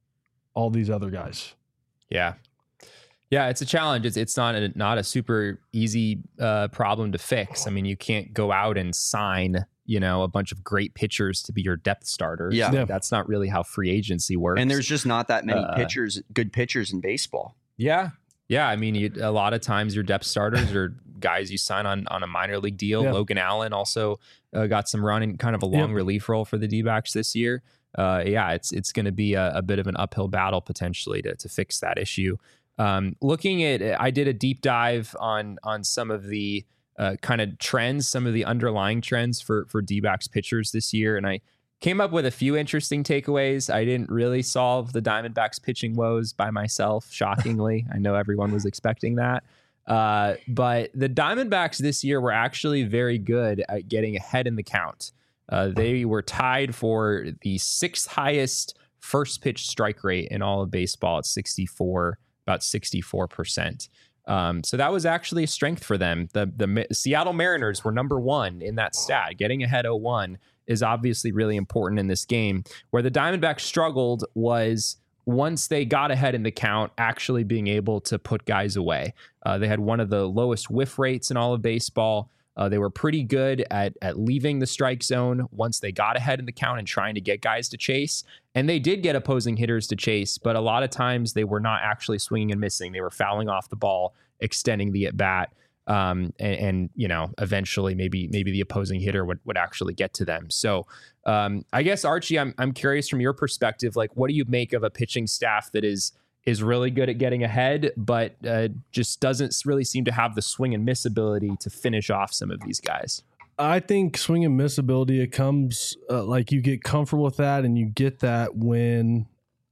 Speaker 3: all these other guys.
Speaker 1: Yeah. Yeah, it's a challenge. It's it's not a not a super easy uh, problem to fix. I mean, you can't go out and sign, you know, a bunch of great pitchers to be your depth starters.
Speaker 2: Yeah.
Speaker 3: Yeah.
Speaker 1: That's not really how free agency works.
Speaker 2: And there's just not that many
Speaker 1: Uh,
Speaker 2: pitchers, good pitchers in baseball.
Speaker 1: Yeah. Yeah. I mean, you, a lot of times your depth starters are guys you sign on, on a minor league deal.
Speaker 3: Yeah.
Speaker 1: Logan Allen also uh, got some run in kind of a long
Speaker 3: Yep.
Speaker 1: relief role for the D-backs this year. Uh, yeah, it's it's going to be a, a bit of an uphill battle potentially to, to fix that issue. Um, looking at, I did a deep dive on on some of the uh, kind of trends, some of the underlying trends for for D-backs pitchers this year, and I came up with a few interesting takeaways. I didn't really solve the Diamondbacks pitching woes by myself, shockingly. I know everyone was expecting that. Uh, but the Diamondbacks this year were actually very good at getting ahead in the count. Uh, they were tied for the sixth highest first pitch strike rate in all of baseball at sixty-four, about sixty-four percent. Um, so that was actually a strength for them. The the Seattle Mariners were number one in that stat. Getting ahead oh one is obviously really important in this game. Where the Diamondbacks struggled was once they got ahead in the count, actually being able to put guys away. Uh, they had one of the lowest whiff rates in all of baseball. Uh, they were pretty good at at leaving the strike zone once they got ahead in the count and trying to get guys to chase. And they did get opposing hitters to chase, but a lot of times they were not actually swinging and missing. They were fouling off the ball, extending the at bat, um, and, and you know, eventually maybe maybe the opposing hitter would would actually get to them. So um, I guess Archie, I'm I'm curious from your perspective, like what do you make of a pitching staff that is is really good at getting ahead, but uh, just doesn't really seem to have the swing and miss ability to finish off some of these guys?
Speaker 3: I think swing and miss ability, it comes uh, like you get comfortable with that, and you get that when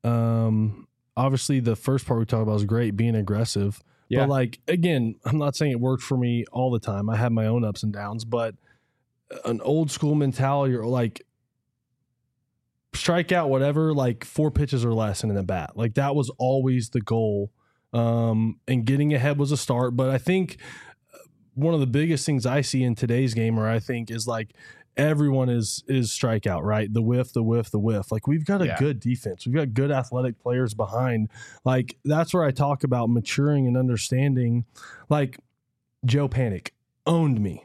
Speaker 3: um, obviously the first part we talked about is great, being aggressive. Yeah. But like, again, I'm not saying it worked for me all the time. I have my own ups and downs, but an old school mentality or like strike out, whatever, like four pitches or less in a bat. Like that was always the goal. Um, and getting ahead was a start. But I think one of the biggest things I see in today's game, or I think is like everyone is, is strikeout, right? The whiff, the whiff, the whiff. Like we've got a yeah. good defense. We've got good athletic players behind. Like that's where I talk about maturing and understanding. Like Joe Panic owned me.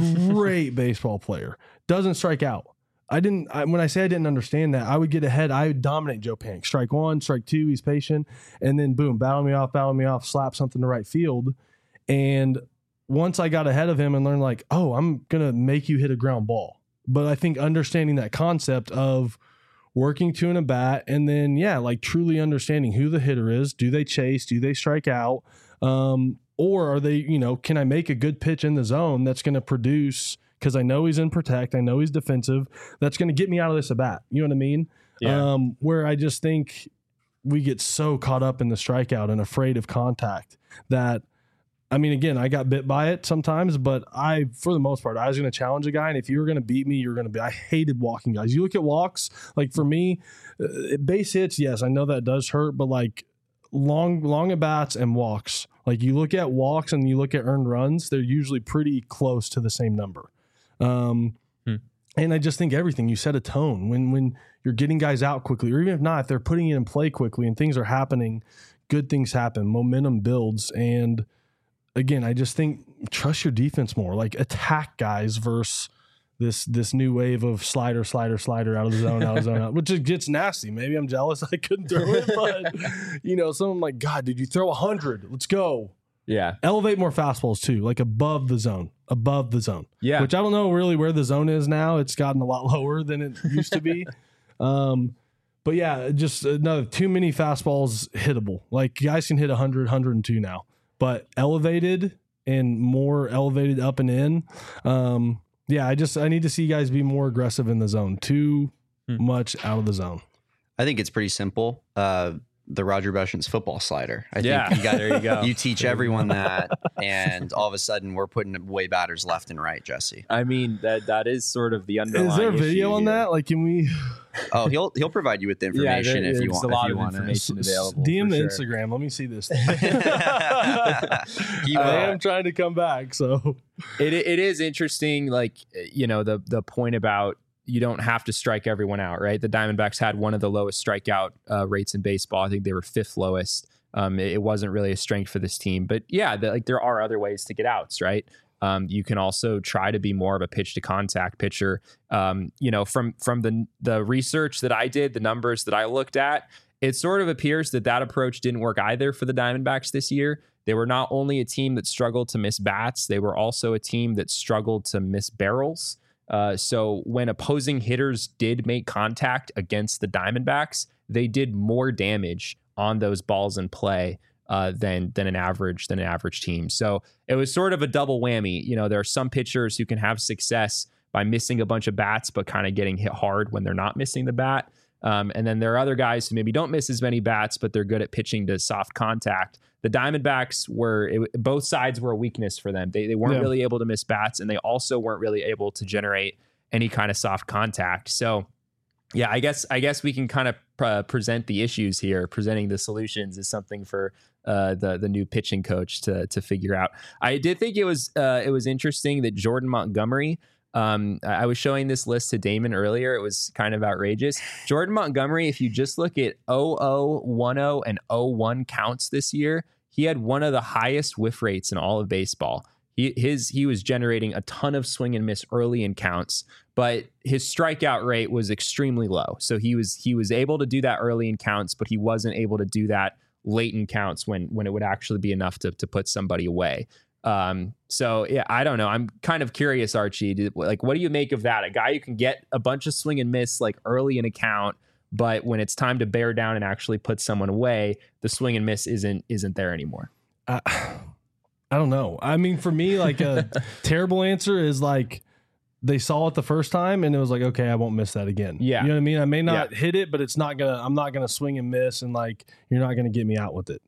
Speaker 3: Great baseball player. Doesn't strike out. I didn't, I, when I say I didn't understand that, I would get ahead. I would dominate Joe Panic. Strike one, strike two, he's patient. And then boom, battle me off, battle me off, slap something to right field. And once I got ahead of him and learned like, oh, I'm going to make you hit a ground ball. But I think understanding that concept of working to an at bat and then, yeah, like truly understanding who the hitter is. Do they chase? Do they strike out? Um, or are they, you know, can I make a good pitch in the zone that's going to produce, because I know he's in protect, I know he's defensive, that's going to get me out of this at bat. You know what I mean? Yeah. Um, where I just think we get so caught up in the strikeout and afraid of contact that, I mean, again, I got bit by it sometimes, but I, for the most part, I was going to challenge a guy, and if you were going to beat me, you were going to be. I hated walking guys. You look at walks, like for me, uh, base hits, yes, I know that does hurt, but like long, long at bats and walks, like you look at walks and you look at earned runs, they're usually pretty close to the same number. Um, hmm. And I just think everything, you set a tone when, when you're getting guys out quickly, or even if not, if they're putting it in play quickly and things are happening, good things happen, momentum builds. And again, I just think trust your defense more, like attack guys versus this, this new wave of slider, slider, slider out of the zone, out of the zone, out, which just gets nasty. Maybe I'm jealous I couldn't throw it, but you know, someone like, God, did you throw a hundred? Let's go.
Speaker 1: Yeah.
Speaker 3: Elevate more fastballs too, like above the zone, above the zone.
Speaker 1: Yeah.
Speaker 3: Which I don't know really where the zone is now. It's gotten a lot lower than it used to be. um, but yeah, just another too many fastballs hittable. Like guys can hit one hundred, one oh two now, but elevated and more elevated up and in. Um, yeah, I just, I need to see guys be more aggressive in the zone. Too hmm. much out of the zone.
Speaker 2: I think it's pretty simple. Uh, the Roger Beshant's football slider. I
Speaker 1: yeah,
Speaker 2: think you got,
Speaker 1: there you go.
Speaker 2: You teach everyone that, and all of a sudden we're putting away batters left and right, Jesse.
Speaker 1: I mean, that that is sort of the underlying.
Speaker 3: Is there a video on
Speaker 1: here.
Speaker 3: that? Like, can we?
Speaker 2: Oh, he'll he'll provide you with the information
Speaker 1: yeah, there,
Speaker 2: if you want.
Speaker 1: A lot
Speaker 2: if you
Speaker 1: of
Speaker 2: want
Speaker 1: information
Speaker 2: it.
Speaker 1: available.
Speaker 3: D M the
Speaker 1: sure.
Speaker 3: Instagram. Let me see this.
Speaker 2: Keep
Speaker 3: I
Speaker 2: up.
Speaker 3: am trying to come back, so
Speaker 1: it it is interesting. Like, you know, the the point about you don't have to strike everyone out, right? The Diamondbacks had one of the lowest strikeout uh, rates in baseball. I think they were fifth lowest. Um, it, it wasn't really a strength for this team, but yeah, the, like there are other ways to get outs, right? Um, you can also try to be more of a pitch to contact pitcher. Um, you know, from from the the research that I did, the numbers that I looked at, it sort of appears that that approach didn't work either for the Diamondbacks this year. They were not only a team that struggled to miss bats, they were also a team that struggled to miss barrels. Uh, so when opposing hitters did make contact against the Diamondbacks, they did more damage on those balls in play uh, than than an average than an average team. So it was sort of a double whammy. You know, there are some pitchers who can have success by missing a bunch of bats, but kind of getting hit hard when they're not missing the bat. Um, and then there are other guys who maybe don't miss as many bats, but they're good at pitching to soft contact. The Diamondbacks were, it, both sides were a weakness for them. They, they weren't yeah. really able to miss bats, and they also weren't really able to generate any kind of soft contact. So Yeah, I guess I guess we can kind of uh, present the issues here. Presenting the solutions is something for uh, the the new pitching coach to to figure out. I did think it was uh, it was interesting that Jordan Montgomery. Um, I was showing this list to Damon earlier. It was kind of outrageous. Jordan Montgomery, if you just look at oh oh, one oh, and oh one counts this year, he had one of the highest whiff rates in all of baseball. He his he was generating a ton of swing and miss early in counts, but his strikeout rate was extremely low. So he was he was able to do that early in counts, but he wasn't able to do that late in counts when when it would actually be enough to to put somebody away. Um, so yeah, I don't know. I'm kind of curious, Archie. Did, like, what do you make of that? A guy who can get a bunch of swing and miss like early in a count, but when it's time to bear down and actually put someone away, the swing and miss isn't isn't there anymore.
Speaker 3: Uh, I don't know. I mean, for me, like a terrible answer is like they saw it the first time and it was like, okay, I won't miss that again.
Speaker 1: Yeah.
Speaker 3: You know what I mean? I may not
Speaker 1: yeah.
Speaker 3: hit it, but it's not going to, I'm not going to swing and miss. And like, you're not going to get me out with it.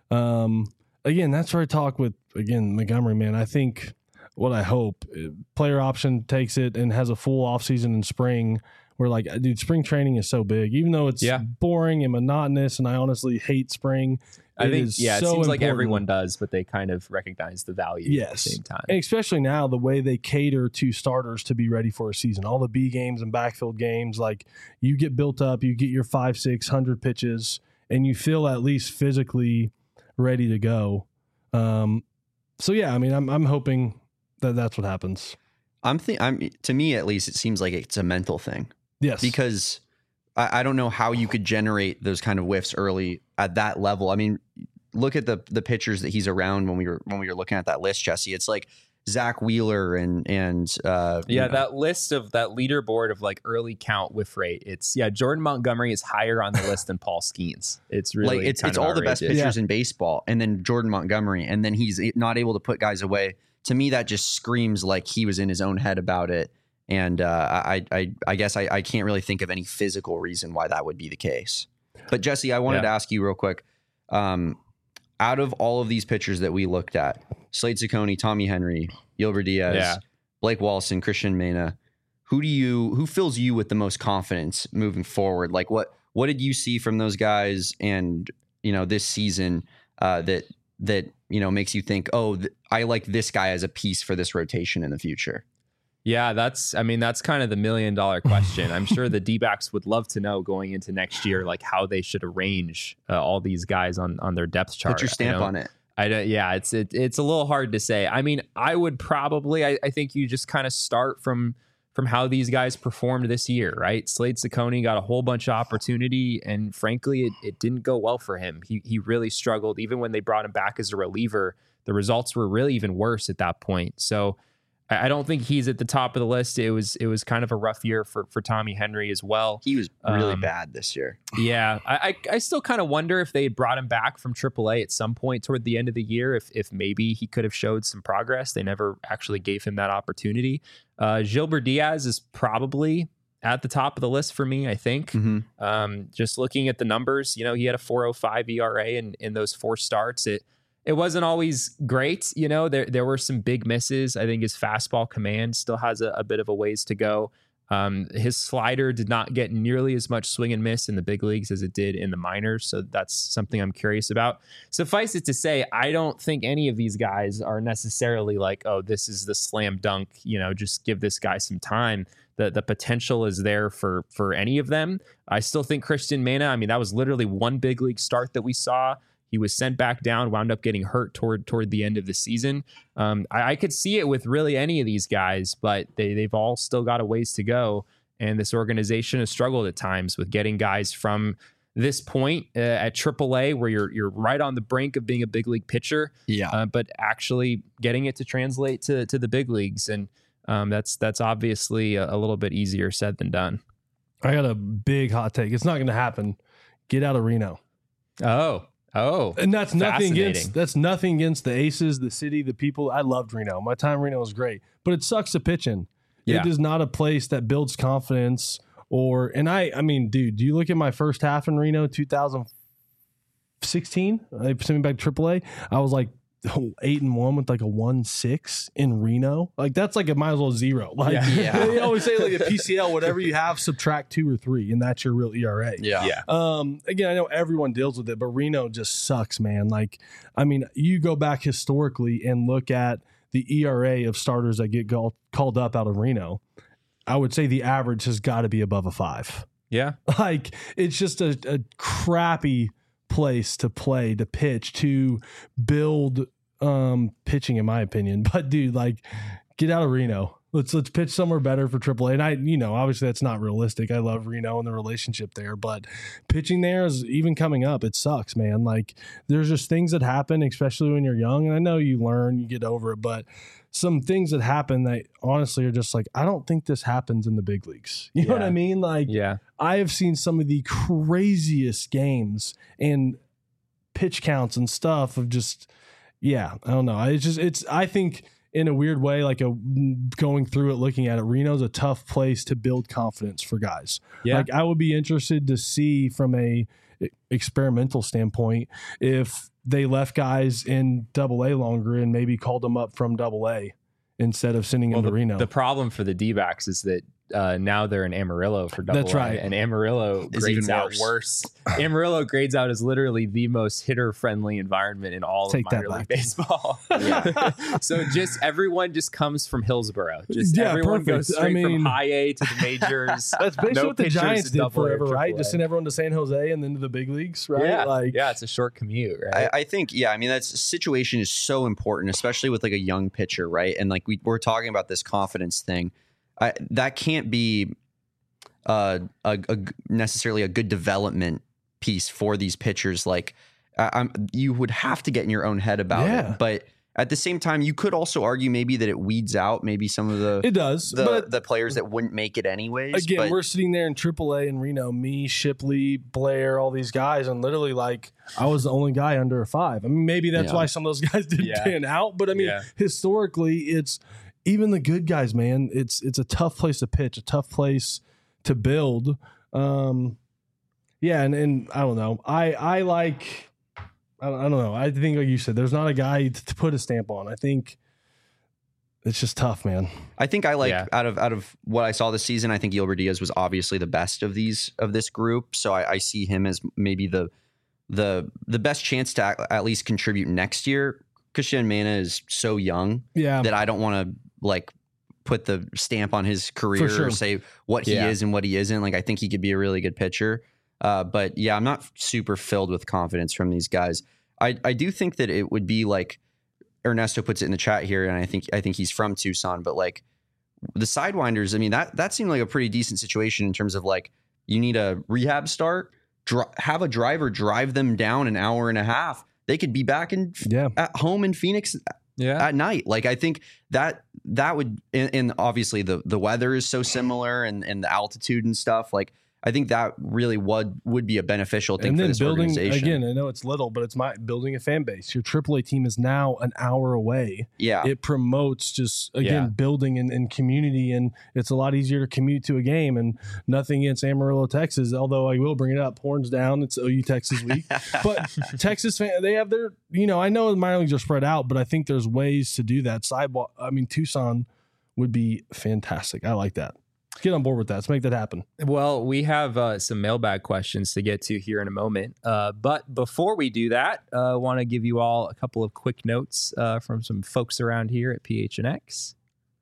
Speaker 3: Um, again, that's where I talk with, again, Montgomery, man. I think what I hope player option takes it and has a full off season in spring where like, dude, spring training is so big, even though it's
Speaker 1: yeah.
Speaker 3: boring and monotonous. And I honestly hate spring.
Speaker 1: I think, yeah, it
Speaker 3: so
Speaker 1: seems like
Speaker 3: important.
Speaker 1: Everyone does, but they kind of recognize the value
Speaker 3: yes.
Speaker 1: at the same time.
Speaker 3: And especially now, the way they cater to starters to be ready for a season, all the B games and backfield games, like you get built up, you get your five, six hundred pitches, and you feel at least physically ready to go. Um, so yeah, I mean, I'm I'm hoping that that's what happens.
Speaker 2: I'm think I'm to me at least, it seems like it's a mental thing.
Speaker 3: Yes,
Speaker 2: because I, I don't know how you could generate those kind of whiffs early at that level. I mean, look at the the pitchers that he's around when we were when we were looking at that list, Jesse. It's like Zach Wheeler and and uh,
Speaker 1: yeah,
Speaker 2: you know.
Speaker 1: that list of that leaderboard of like early count whiff rate. It's yeah, Jordan Montgomery is higher on the list than Paul Skeens. It's really
Speaker 2: like it's
Speaker 1: kind
Speaker 2: it's
Speaker 1: of
Speaker 2: all the best
Speaker 1: outrageous.
Speaker 2: pitchers
Speaker 3: Yeah.
Speaker 2: in baseball, and then Jordan Montgomery, and then he's not able to put guys away. To me, that just screams like he was in his own head about it. And uh, I, I, I guess I, I can't really think of any physical reason why that would be the case. But Jesse, I wanted
Speaker 1: Yeah.
Speaker 2: to ask you real quick. Um, out of all of these pitchers that we looked at, Slade Ciccone, Tommy Henry, Gilbert Diaz,
Speaker 1: Yeah.
Speaker 2: Blake Walson, Christian Mena, who do you who fills you with the most confidence moving forward? Like what what did you see from those guys and you know this season uh, that that you know makes you think, oh, th- I like this guy as a piece for this rotation in the future?
Speaker 1: Yeah, that's, I mean, that's kind of the million dollar question. I'm sure the D-backs would love to know going into next year, like how they should arrange uh, all these guys on, on their depth chart.
Speaker 2: Put your stamp
Speaker 1: I
Speaker 2: on it.
Speaker 1: I don't, yeah, it's, it, it's a little hard to say. I mean, I would probably, I, I think you just kind of start from, from how these guys performed this year, right? Slade Ciccone got a whole bunch of opportunity and frankly, it, it didn't go well for him. He, he really struggled. Even when they brought him back as a reliever, the results were really even worse at that point. So I don't think he's at the top of the list. It was it was kind of a rough year for, for Tommy Henry as well.
Speaker 2: He was really
Speaker 1: Um,
Speaker 2: bad this year.
Speaker 1: Yeah, I I, I still kind of wonder if they had brought him back from triple A at some point toward the end of the year, if if maybe he could have showed some progress. They never actually gave him that opportunity. Uh, Gilbert Diaz is probably at the top of the list for me, I think.
Speaker 2: Mm-hmm.
Speaker 1: Um, just looking at the numbers, you know, he had a four oh five E R A in, in those four starts. It It wasn't always great. You know, there there were some big misses. I think his fastball command still has a, a bit of a ways to go. Um, his slider did not get nearly as much swing and miss in the big leagues as it did in the minors. So that's something I'm curious about. Suffice it to say, I don't think any of these guys are necessarily like, oh, this is the slam dunk, you know, just give this guy some time. The the potential is there for for any of them. I still think Christian Mena, I mean, that was literally one big league start that we saw. He was sent back down, wound up getting hurt toward toward the end of the season. Um, I, I could see it with really any of these guys, but they, they've all still got a ways to go. And this organization has struggled at times with getting guys from this point uh, at triple A, where you're you're right on the brink of being a big league pitcher,
Speaker 2: Yeah.
Speaker 1: uh, but actually getting it to translate to to the big leagues. And um, that's that's obviously a, a little bit easier said than done.
Speaker 3: I got a big hot take. It's not going to happen. Get out of Reno.
Speaker 1: Oh. Oh,
Speaker 3: And that's nothing
Speaker 1: fascinating.
Speaker 3: against that's nothing against the Aces, the city, the people. I loved Reno. My time in Reno was great, but it sucks to pitch in.
Speaker 1: Yeah.
Speaker 3: It is not a place that builds confidence. Or and I, I mean, dude, do you look at my first half in Reno, two thousand sixteen? They sent me back to triple A. I was like eight and one with like a one six in Reno. Like that's like a might as well zero. Like
Speaker 1: Yeah.
Speaker 2: Yeah.
Speaker 3: they always say like a P C L, whatever you have, subtract two or three, and that's your real E R A.
Speaker 2: Yeah.
Speaker 1: Yeah.
Speaker 3: Um, again, I know everyone deals with it, but Reno just sucks, man. Like, I mean, you go back historically and look at the E R A of starters that get called called up out of Reno. I would say the average has got to be above a five.
Speaker 1: Yeah.
Speaker 3: Like, it's just a, a crappy place to play, to pitch, to build um, pitching, in my opinion. But dude, like, get out of Reno. Let's let's pitch somewhere better for triple A. And I, you know, obviously that's not realistic. I love Reno and the relationship there, but pitching there is even coming up. It sucks, man. Like there's just things that happen, especially when you're young. And I know you learn, you get over it, but some things that happen that honestly are just like, I don't think this happens in the big leagues. You know what
Speaker 1: Yeah.
Speaker 3: I mean? Like
Speaker 1: Yeah.
Speaker 3: I have seen some of the craziest games and pitch counts and stuff of just, yeah, I don't know. It's just, it's, I think, in a weird way, like a going through it, looking at it, Reno's a tough place to build confidence for guys.
Speaker 1: Yeah.
Speaker 3: Like I would be interested to see from a experimental standpoint if they left guys in double A longer and maybe called them up from double A instead of sending
Speaker 1: Well,
Speaker 3: them to
Speaker 1: the,
Speaker 3: Reno.
Speaker 1: the problem for the D-backs is that uh, now they're in Amarillo for double
Speaker 3: That's
Speaker 1: A,
Speaker 3: right.
Speaker 1: and Amarillo
Speaker 2: Is
Speaker 1: grades
Speaker 2: even
Speaker 1: out
Speaker 2: worse.
Speaker 1: worse. Amarillo grades out as literally the most hitter-friendly environment in all
Speaker 3: Take
Speaker 1: of
Speaker 3: that
Speaker 1: minor league
Speaker 3: back.
Speaker 1: baseball.
Speaker 2: Yeah.
Speaker 1: So just everyone just comes from Hillsboro. Just
Speaker 3: Yeah,
Speaker 1: everyone
Speaker 3: perfect.
Speaker 1: goes
Speaker 3: I
Speaker 1: straight
Speaker 3: mean-
Speaker 1: from high A to the majors.
Speaker 3: That's basically
Speaker 1: No
Speaker 3: what the
Speaker 1: pitchers
Speaker 3: Giants
Speaker 1: at
Speaker 3: did
Speaker 1: double A or
Speaker 3: forever, right?
Speaker 1: triple A.
Speaker 3: Just send everyone to San Jose and then to the big leagues, right?
Speaker 1: Yeah,
Speaker 3: Like,
Speaker 1: yeah, it's a short commute, right?
Speaker 2: I, I think, yeah, I mean, that situation is so important, especially with like a young pitcher, right? And like we, we're talking about this confidence thing. I, that can't be uh, a, a necessarily a good development piece for these pitchers. Like, I, I'm, you would have to get in your own head about
Speaker 3: Yeah.
Speaker 2: it. But at the same time, you could also argue maybe that it weeds out maybe some of the
Speaker 3: it does.
Speaker 2: the,
Speaker 3: but
Speaker 2: the players that wouldn't make it anyways.
Speaker 3: again,
Speaker 2: but,
Speaker 3: we're sitting there in triple A in Reno, me, Shipley, Blair, all these guys, and literally like I was the only guy under a five. I mean, maybe that's
Speaker 2: Yeah.
Speaker 3: why some of those guys didn't
Speaker 1: Yeah.
Speaker 3: pan out. But I mean,
Speaker 1: Yeah.
Speaker 3: historically, it's even the good guys, man. It's it's a tough place to pitch, a tough place to build. Um, yeah, and, and I don't know. I I like. I don't, I don't know. I think, like you said, there's not a guy to, to put a stamp on. I think it's just tough, man.
Speaker 2: I think I like
Speaker 1: Yeah.
Speaker 2: out of out of what I saw this season, I think Gilbert Diaz was obviously the best of these of this group. So I, I see him as maybe the the the best chance to at, at least contribute next year. Christian Mana is so young
Speaker 3: Yeah,
Speaker 2: that I don't want to like put the stamp on his career
Speaker 3: sure.
Speaker 2: or say what he
Speaker 1: Yeah.
Speaker 2: is and what he isn't. Like I think he could be a really good pitcher. Uh, but yeah, I'm not super filled with confidence from these guys. I, I do think that it would be like Ernesto puts it in the chat here, and I think I think he's from Tucson, but like the Sidewinders, I mean that that seemed like a pretty decent situation in terms of like you need a rehab start, dri- have a driver drive them down an hour and a half. They could be back in
Speaker 3: yeah.
Speaker 2: at home in Phoenix
Speaker 1: yeah.
Speaker 2: at night. Like I think that that would, and, and obviously the the weather is so similar, and and the altitude and stuff. Like I think that really would would be a beneficial thing
Speaker 3: And
Speaker 2: for
Speaker 3: then
Speaker 2: this
Speaker 3: building
Speaker 2: organization.
Speaker 3: again, I know it's little, but it's my building a fan base. Your triple A team is now an hour away.
Speaker 2: yeah,
Speaker 3: It promotes just again
Speaker 1: Yeah.
Speaker 3: building and, and community, and it's a lot easier to commute to a game. And nothing against Amarillo, Texas, although I will bring it up. Horns down. It's O U Texas week, but Texas fan they have their. You know, I know the minor leagues are spread out, but I think there's ways to do that. Sidewalk. I mean, Tucson would be fantastic. I like that. Let's get on board with that. Let's make that happen.
Speaker 1: Well, we have uh, some mailbag questions to get to here in a moment. Uh, but before we do that, I uh, want to give you all a couple of quick notes uh, from some folks around here at P H N X.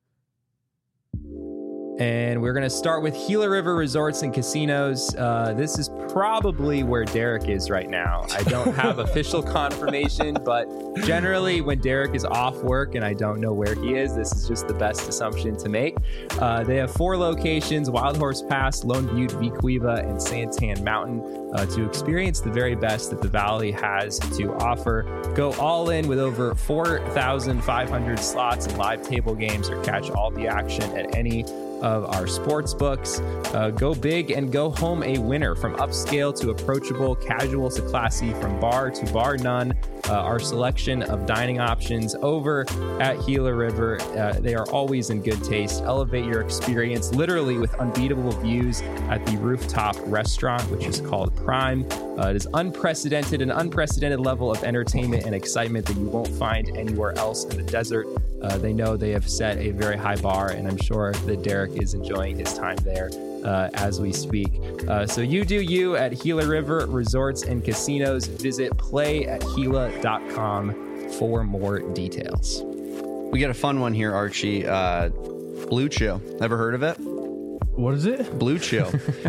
Speaker 1: And we're going to start with Gila River Resorts and Casinos. Uh, this is probably where Derek is right now. I don't have official confirmation, but generally when Derek is off work and I don't know where he is, this is just the best assumption to make. Uh, they have four locations: Wild Horse Pass, Lone Butte, Vicuiva, and Santan Mountain. Uh, to experience the very best that the Valley has to offer, go all in with over four thousand five hundred slots and live table games, or catch all the action at any of our sports books. Uh, go big and go home a winner. From upscale to approachable, casual to classy, from bar to bar none. Uh, our selection of dining options over at Gila River, uh, they are always in good taste. Elevate your experience literally with unbeatable views at the rooftop restaurant, which is called Prime. Uh, it is unprecedented, an unprecedented level of entertainment and excitement that you won't find anywhere else in the desert. Uh, they know they have set a very high bar, and I'm sure that Derek is enjoying his time there uh, as we speak. Uh, so you do you at Gila River Resorts and Casinos. Visit play at gila dot com for more details.
Speaker 2: We got a fun one here, Archie. Uh, Blue Chew. Ever heard of it?
Speaker 3: What is it?
Speaker 2: Blue Chew.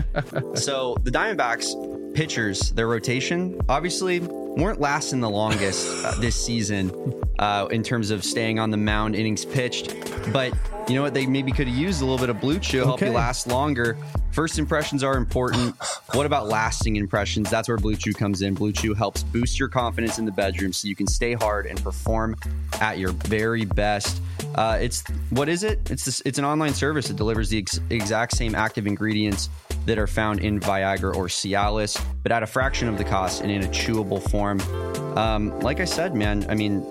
Speaker 2: So the Diamondbacks pitchers, their rotation, obviously weren't lasting the longest uh, this season uh, in terms of staying on the mound, innings pitched. But you know what? They maybe could have used a little bit of Blue Chew, help
Speaker 3: Okay.
Speaker 2: you last longer. First impressions are important. What about lasting impressions? That's where Blue Chew comes in. Blue Chew helps boost your confidence in the bedroom so you can stay hard and perform at your very best. Uh, it's what is it? It's this, it's an online service that delivers the ex- exact same active ingredients that are found in Viagra or Cialis, but at a fraction of the cost and in a chewable form. Um, like I said, man, I mean,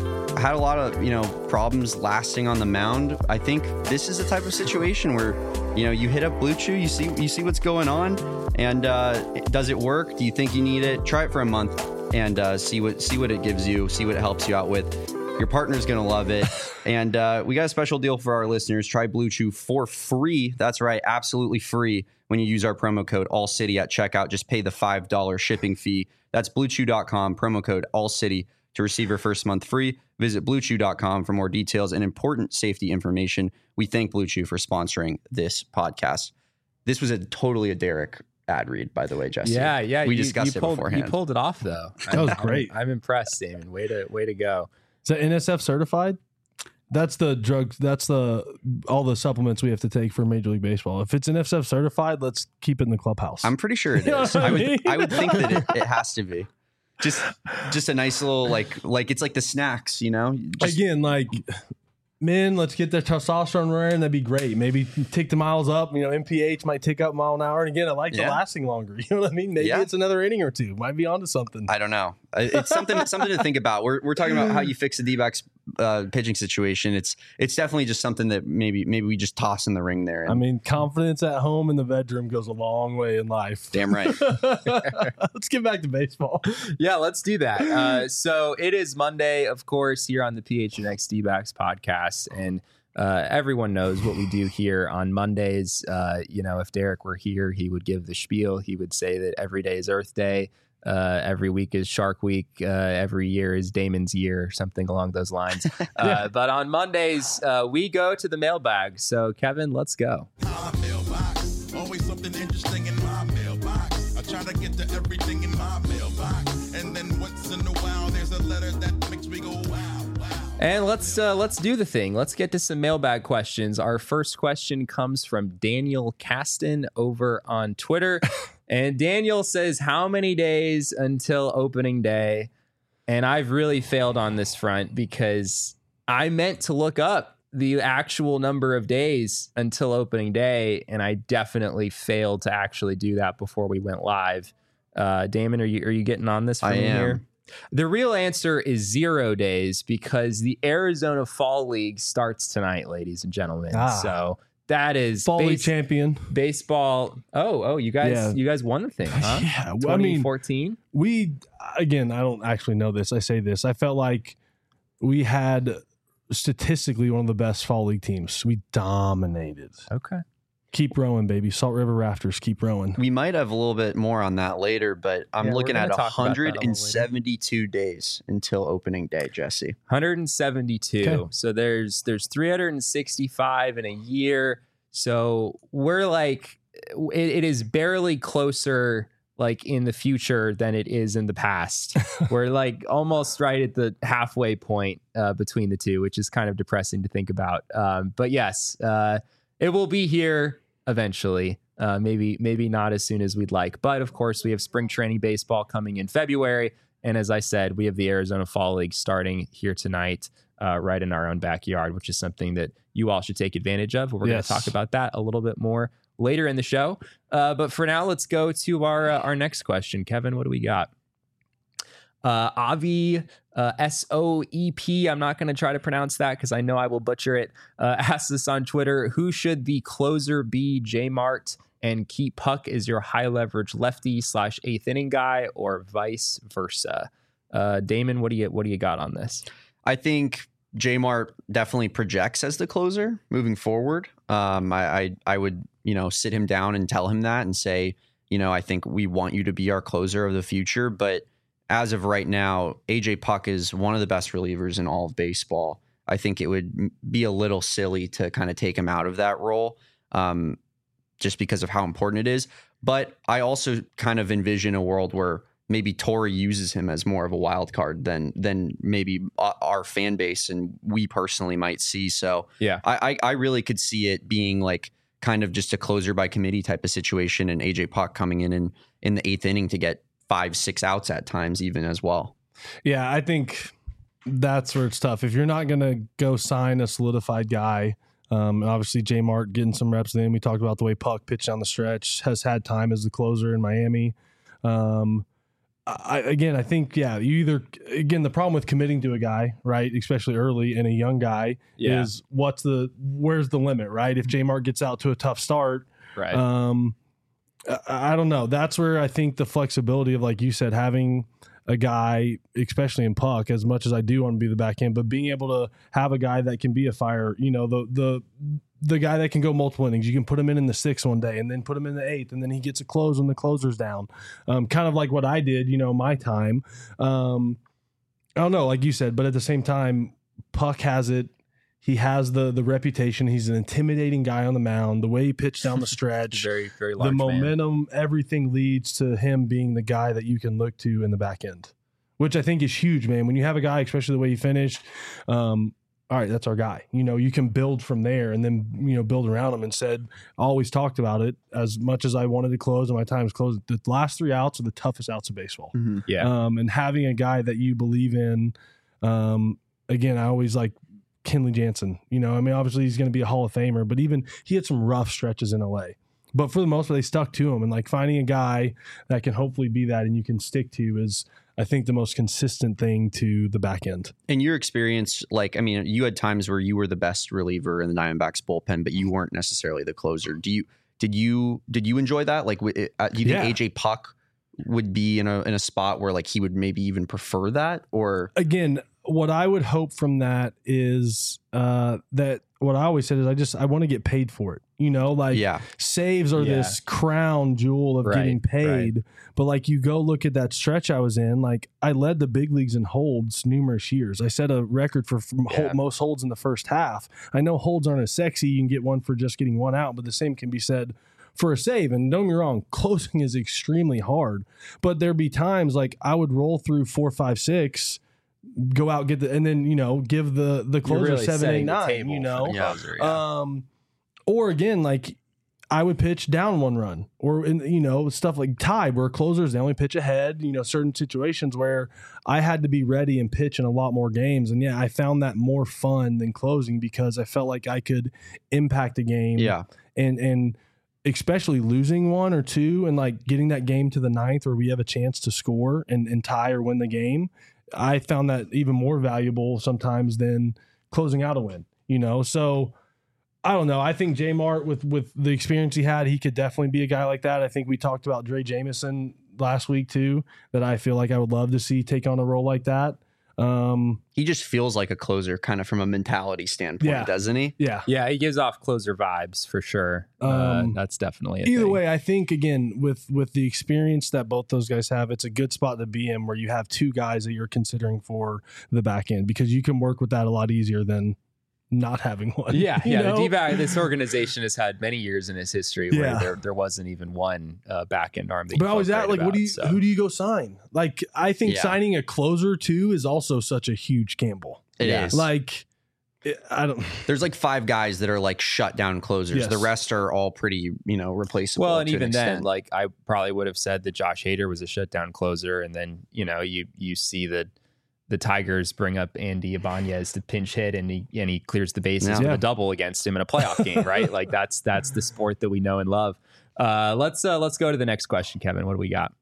Speaker 2: I had a lot of, you know, problems lasting on the mound. I think this is the type of situation where, you know, you hit up Blue Chew, you see, you see what's going on, and uh, does it work? Do you think you need it? Try it for a month and uh, see what see what it gives you, see what it helps you out with. Your partner's going to love it. And uh, we got a special deal for our listeners. Try Blue Chew for free. That's right, absolutely free when you use our promo code ALLCITY at checkout. Just pay the five dollars shipping fee. That's blue chew dot com, promo code ALLCITY to receive your first month free. Visit blue chew dot com for more details and important safety information. We thank Blue Chew for sponsoring this podcast. This was a totally a Derek ad read, by the way, Jesse.
Speaker 1: Yeah, yeah.
Speaker 2: We
Speaker 1: you,
Speaker 2: discussed
Speaker 1: you
Speaker 2: it
Speaker 1: pulled,
Speaker 2: beforehand.
Speaker 1: You pulled it off, though.
Speaker 3: That was
Speaker 1: I'm-
Speaker 3: great.
Speaker 1: I'm, I'm impressed, Damon. Way to way to go.
Speaker 3: Is that N S F certified? That's the drugs. That's the all the supplements we have to take for Major League Baseball. If it's N S F certified, let's keep it in the clubhouse.
Speaker 2: I'm pretty sure it
Speaker 3: You know
Speaker 2: is.
Speaker 3: what I
Speaker 2: I would
Speaker 3: mean?
Speaker 2: I would think that it, it has to be. Just just a nice little like like it's like the snacks, you know? Just,
Speaker 3: Again, like men, let's get their testosterone running. That'd be great. Maybe tick the miles up. You know, M P H might tick up mile an hour. And again, I like the
Speaker 2: Yeah.
Speaker 3: lasting longer. You know what I mean? Maybe
Speaker 2: Yeah.
Speaker 3: it's another inning or two. Might be onto something.
Speaker 2: I don't know. It's something something to think about. We're we're talking about how you fix the D-backs uh, pitching situation. It's it's definitely just something that maybe maybe we just toss in the ring there. And
Speaker 3: I mean, confidence at home in the bedroom goes a long way in life.
Speaker 2: damn right.
Speaker 3: Let's get back to baseball.
Speaker 1: Yeah, let's do that. Uh, so it is Monday, of course, here on the P H N X D-backs podcast, and uh, everyone knows what we do here on Mondays. Uh, you know, if Derek were here, he would give the spiel. He would say that every day is Earth Day. Uh, every week is Shark Week. Uh, every year is Damon's year, or something along those lines. Uh, but on Mondays, uh, we go to the mailbag. So, Kevin, let's go.
Speaker 4: My mailbox, always something interesting in my mailbox. I try to get to everything in my mailbox, and then once in a while there's a letter that makes me go wow, wow.
Speaker 1: And let's uh, let's do the thing. Let's get to some mailbag questions. Our first question comes from Daniel Caston over on Twitter. And Daniel says, how many days until opening day? And I've really failed on this front because I meant to look up the actual number of days until opening day, and I definitely failed to actually do that before we went live. Uh, Damon, are you are you getting on this?
Speaker 2: I
Speaker 1: me
Speaker 2: am.
Speaker 1: Here? The real answer is zero days because the Arizona Fall League starts tonight, ladies and gentlemen.
Speaker 3: Ah.
Speaker 1: So that is
Speaker 3: Fall League
Speaker 1: base-
Speaker 3: champion.
Speaker 1: baseball. Oh, oh, you guys,
Speaker 3: Yeah.
Speaker 1: you guys won the thing, huh?
Speaker 3: Yeah, well, I mean,
Speaker 1: twenty fourteen.
Speaker 3: we again, I don't actually know this. I say this. I felt like we had statistically one of the best fall league teams. We dominated.
Speaker 1: Okay.
Speaker 3: Keep rowing, baby. Salt River Rafters, keep rowing.
Speaker 2: We might have a little bit more on that later, but I'm
Speaker 1: Yeah, we're
Speaker 2: looking
Speaker 1: gonna
Speaker 2: at
Speaker 1: talk about that a little
Speaker 2: one hundred seventy-two days until opening day, Jesse.
Speaker 1: one hundred seventy-two.
Speaker 3: Okay.
Speaker 1: So there's there's three hundred sixty-five in a year. So we're like, it, it is barely closer like in the future than it is in the past. We're like almost right at the halfway point uh, between the two, which is kind of depressing to think about. Um, but yes, uh, it will be here eventually. Uh, maybe maybe not as soon as we'd like. But of course, we have spring training baseball coming in February. And as I said, we have the Arizona Fall League starting here tonight, uh, right in our own backyard, which is something that you all should take advantage of. We're
Speaker 3: Yes.
Speaker 1: going to talk about that a little bit more later in the show. Uh, but for now, let's go to our uh, our next question. Kevin, what do we got? Uh, Avi uh, S O E P, I'm not going to try to pronounce that because I know I will butcher it, uh, asks us on Twitter, who should the closer be, J-Mart and Keep Puck is your high leverage lefty slash eighth inning guy, or vice versa? Uh, Damon, what do you what do you got on this?
Speaker 2: I think J-Mart definitely projects as the closer moving forward. Um, I, I I would, you know, sit him down and tell him that and say, you know, I think we want you to be our closer of the future. But as of right now, A J Puck is one of the best relievers in all of baseball. I think it would be a little silly to kind of take him out of that role, um, just because of how important it is. But I also kind of envision a world where maybe Torrey uses him as more of a wild card than than maybe our fan base and we personally might see. So
Speaker 1: Yeah.
Speaker 2: I, I I really could see it being like kind of just a closer by committee type of situation, and A J Puck coming in in, in the eighth inning to get five, six outs at times even as well.
Speaker 3: Yeah, I think that's where it's tough. If you're not going to go sign a solidified guy, um, obviously J-Mart getting some reps in. We talked about the way Puck pitched down the stretch, has had time as the closer in Miami. Um, I, again, I think, yeah, you either, again, the problem with committing to a guy, right, especially early and a young guy,
Speaker 1: Yeah.
Speaker 3: is what's the, where's the limit, right? If J-Mart gets out to a tough start,
Speaker 1: Right.
Speaker 3: um, I, I don't know. That's where I think the flexibility of, like you said, having a guy, especially in Puck, as much as I do want to be the back end, but being able to have a guy that can be a fire, you know, the, the, the guy that can go multiple innings. You can put him in in the sixth one day and then put him in the eighth, and then he gets a close when the closer's down. Um, kind of like what I did, you know, my time. Um, I don't know, like you said, but at the same time, Puck has it. He has the the reputation. He's an intimidating guy on the mound. The way he pitched down the stretch,
Speaker 1: very, very
Speaker 3: the
Speaker 1: large man.
Speaker 3: momentum, everything leads to him being the guy that you can look to in the back end, which I think is huge, man. When you have a guy, especially the way he finished, um, all right, that's our guy. You know, you can build from there and then, you know, build around him. And said, always talked about it as much as I wanted to close and my time's closed. The last three outs are the toughest outs of baseball.
Speaker 2: Mm-hmm.
Speaker 1: Yeah.
Speaker 3: Um, and having a guy that you believe in, um, again, I always like Kenley Jansen. You know, I mean, obviously he's going to be a Hall of Famer, but even he had some rough stretches in L A. But for the most part, they stuck to him. And like finding a guy that can hopefully be that and you can stick to is, I think, the most consistent thing to the back end.
Speaker 2: In your experience, like, I mean, you had times where you were the best reliever in the Diamondbacks bullpen, but you weren't necessarily the closer. Do you, did you, did you enjoy that? Like, w- uh, do you think
Speaker 3: Yeah.
Speaker 2: A J Puck would be in a, in a spot where like he would maybe even prefer that? Or
Speaker 3: Again, what I would hope from that is uh, that what I always said is I just, I want to get paid for it. You know, like
Speaker 2: yeah,
Speaker 3: saves are
Speaker 1: Yeah.
Speaker 3: this crown jewel of
Speaker 1: Right,
Speaker 3: getting paid.
Speaker 1: right.
Speaker 3: But like you go look at that stretch I was in, like I led the big leagues in holds numerous years. I set a record for from
Speaker 2: Yeah.
Speaker 3: hold, most holds in the first half. I know holds aren't as sexy. You can get one for just getting one out, but the same can be said for a save. And don't get me wrong, closing is extremely hard. But there'd be times like I would roll through four, five, six, go out, get the, and then, you know, give the the
Speaker 1: You're
Speaker 3: closer
Speaker 1: really
Speaker 3: seven,
Speaker 1: setting
Speaker 3: eight,
Speaker 1: the
Speaker 3: nine,
Speaker 1: table
Speaker 3: you
Speaker 1: for
Speaker 3: know.
Speaker 1: the
Speaker 2: Yeah.
Speaker 1: closer, yeah.
Speaker 3: Um, or again, like I would pitch down one run, or in, you know, stuff like tie where closers they only pitch ahead. You know, certain situations where I had to be ready and pitch in a lot more games, and yeah, I found that more fun than closing because I felt like I could impact a game.
Speaker 2: yeah,
Speaker 3: and and especially losing one or two, and like getting that game to the ninth where we have a chance to score and, and tie or win the game. I found that even more valuable sometimes than closing out a win. You know, so. I don't know. I think J-Mart, with with the experience he had, he could definitely be a guy like that. I think we talked about Dre Jameson last week too, that I feel like I would love to see take on a role like that. Um,
Speaker 2: he just feels like a closer kind of from a mentality standpoint,
Speaker 3: Yeah.
Speaker 2: doesn't he?
Speaker 3: yeah.
Speaker 1: Yeah, he gives off closer vibes for sure. uh,
Speaker 3: Um,
Speaker 1: that's definitely a
Speaker 3: Either
Speaker 1: thing.
Speaker 3: way, I think again with with the experience that both those guys have, it's a good spot to be in where you have two guys that you're considering for the back end because you can work with that a lot easier than not having one.
Speaker 1: Yeah,
Speaker 3: you
Speaker 1: yeah.
Speaker 3: know?
Speaker 1: The D-back, this organization has had many years in its history where
Speaker 3: Yeah.
Speaker 1: there, there wasn't even one uh, back end arm. That
Speaker 3: But
Speaker 1: you
Speaker 3: I was
Speaker 1: felt
Speaker 3: at
Speaker 1: great
Speaker 3: like, what do you?
Speaker 1: about, so.
Speaker 3: Who do you go sign? Like, I think
Speaker 2: Yeah.
Speaker 3: signing a closer too is also such a huge gamble.
Speaker 2: It is.
Speaker 1: Yeah.
Speaker 3: Like, it, I don't.
Speaker 2: There's like five guys that are like shutdown closers.
Speaker 3: Yes.
Speaker 2: The rest are all pretty, you know, replaceable.
Speaker 1: Well, and
Speaker 2: to an
Speaker 1: even then,
Speaker 2: extent.
Speaker 1: like I probably would have said that Josh Hader was a shutdown closer, and then you know you you see that the Tigers bring up Andy Ibanez to pinch hit, and he and he clears the bases
Speaker 2: Yeah.
Speaker 1: with a double against him in a playoff game, right? Like that's that's the sport that we know and love. Uh, let's uh, let's go to the next question, Kevin. What do we got?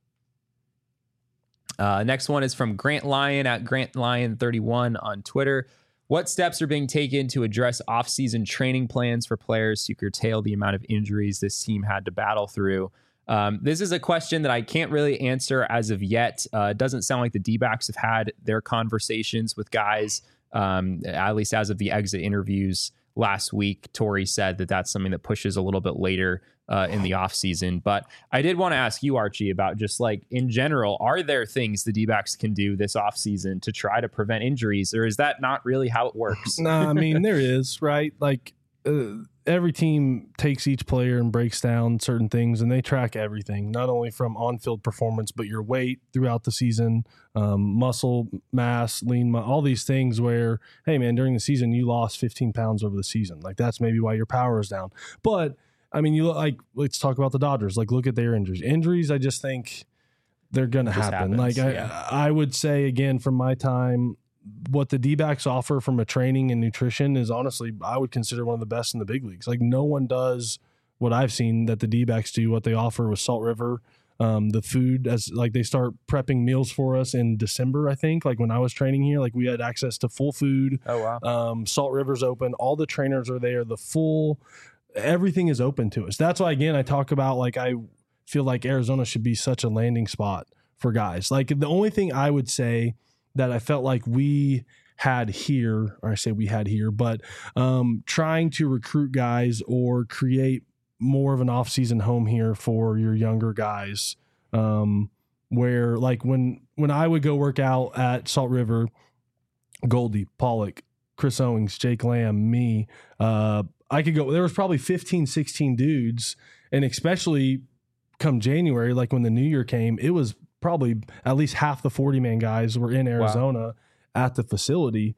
Speaker 1: Uh, next one is from Grant Lyon at Grant Lyon thirty-one on Twitter. What steps are being taken to address off-season training plans for players to curtail the amount of injuries this team had to battle through? Um, this is a question that I can't really answer as of yet. Uh, it doesn't sound like the D-backs have had their conversations with guys, um, at least as of the exit interviews last week. Torrey said that that's something that pushes a little bit later uh, in the offseason. But I did want to ask you, Archie, about just like in general, are there things the D-backs can do this offseason to try to prevent injuries, or is that not really how it works?
Speaker 3: Nah, I mean, there is, right? Like uh, every team takes each player and breaks down certain things, and they track everything, not only from on-field performance, but your weight throughout the season, um, muscle mass, lean, mu- all these things where, hey, man, during the season, you lost fifteen pounds over the season. Like that's maybe why your power is down. But, I mean, you look like, let's talk about the Dodgers. Like, look at their injuries. Injuries, I just think they're going to
Speaker 1: Just
Speaker 3: happen.
Speaker 1: happens,
Speaker 3: like, I,
Speaker 1: yeah.
Speaker 3: I would say, again, from my time, what the D-backs offer from a training and nutrition is honestly, I would consider one of the best in the big leagues. Like no one does what I've seen that the D-backs do, what they offer with Salt River. Um, the food, as like they start prepping meals for us in December, I think, like when I was training here, like we had access to full food.
Speaker 1: Oh, wow.
Speaker 3: Um, Salt River's open. All the trainers are there. The full, everything is open to us. That's why, again, I talk about like, I feel like Arizona should be such a landing spot for guys. Like the only thing I would say that I felt like we had here, or I say we had here, but um, trying to recruit guys or create more of an off-season home here for your younger guys, um, where like when when I would go work out at Salt River, Goldie, Pollock, Chris Owings, Jake Lamb, me, uh, I could go, there was probably fifteen, sixteen dudes, and especially come January, like when the new year came, it was probably at least half the forty man guys were in Arizona wow. at the facility.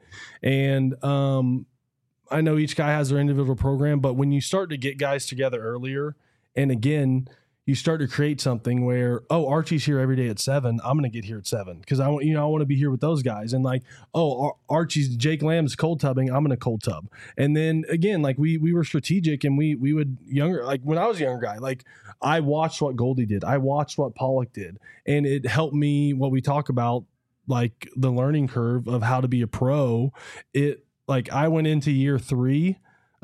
Speaker 3: And um, I know each guy has their individual program, but when you start to get guys together earlier, and again, you start to create something where, oh, Archie's here every day at seven. I'm going to get here at seven because I want, you know, I want to be here with those guys. And like, oh, Ar- Archie's Jake Lamb's cold tubbing. I'm going to cold tub. And then again, like we we were strategic, and we we would younger, like when I was a younger guy, like I watched what Goldie did. I watched what Pollock did, and it helped me. What we talk about, like the learning curve of how to be a pro. It like I went into year three.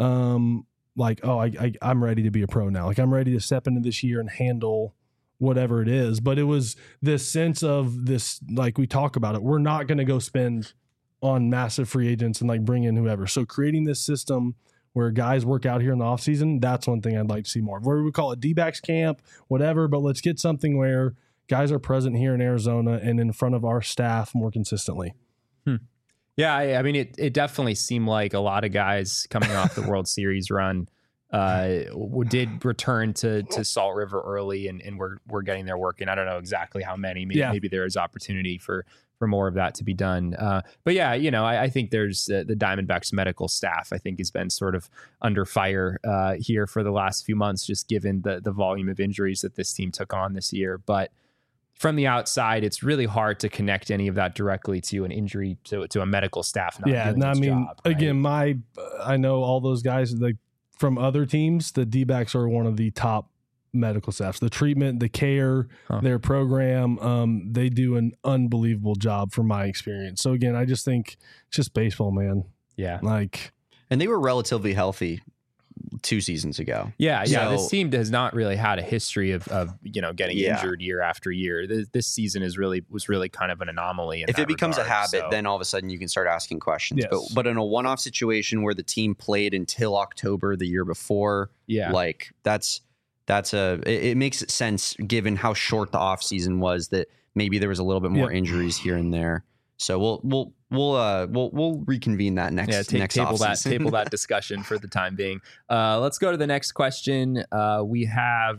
Speaker 3: Um, like, oh, I, I, I'm ready to be a pro now. Like I'm ready to step into this year and handle whatever it is. But it was this sense of this, like we talk about it, we're not going to go spend on massive free agents and like bring in whoever. So creating this system where guys work out here in the off season, that's one thing I'd like to see more. Where we call it D-backs camp, whatever, but let's get something where guys are present here in Arizona and in front of our staff more consistently.
Speaker 1: Hmm. Yeah, I, I mean, it it definitely seemed like a lot of guys coming off the World Series run uh, did return to to Salt River early, and, and we're we're getting their work in. I don't know exactly how many. Maybe,
Speaker 3: yeah.
Speaker 1: maybe there is opportunity for for more of that to be done. Uh, but yeah, you know, I, I think there's uh, the Diamondbacks medical staff, I think, has been sort of under fire uh, here for the last few months, just given the the volume of injuries that this team took on this year. But from the outside, it's really hard to connect any of that directly to an injury to, to a medical staff. Not
Speaker 3: yeah,
Speaker 1: doing
Speaker 3: no, I
Speaker 1: its
Speaker 3: mean,
Speaker 1: job, right?
Speaker 3: again, my I know all those guys like from other teams. The D-backs are one of the top medical staffs. The treatment, the care,
Speaker 1: Huh.
Speaker 3: their program, um, they do an unbelievable job from my experience. So again, I just think it's just baseball, man.
Speaker 1: Yeah,
Speaker 3: Like,
Speaker 2: and they were relatively healthy two seasons ago.
Speaker 1: yeah, yeah.
Speaker 2: So-
Speaker 1: This team has not really had a history of, of you know getting
Speaker 2: Yeah.
Speaker 1: injured year after year. This, this season is really was really kind of an anomaly. In
Speaker 2: If
Speaker 1: that
Speaker 2: it becomes
Speaker 1: regard,
Speaker 2: a habit,
Speaker 1: so.
Speaker 2: then all of a sudden you can start asking questions.
Speaker 3: Yes.
Speaker 2: But but in a one-off situation where the team played until October the year before,
Speaker 1: yeah,
Speaker 2: like that's that's a it, it makes sense given how short the off season was that maybe there was a little bit more
Speaker 3: Yep.
Speaker 2: injuries here and there. So we'll we'll we'll uh we'll we'll reconvene that next
Speaker 1: yeah. Ta-
Speaker 2: next
Speaker 1: table that
Speaker 2: offseason.
Speaker 1: table that discussion for the time being. Uh, let's go to the next question. Uh, we have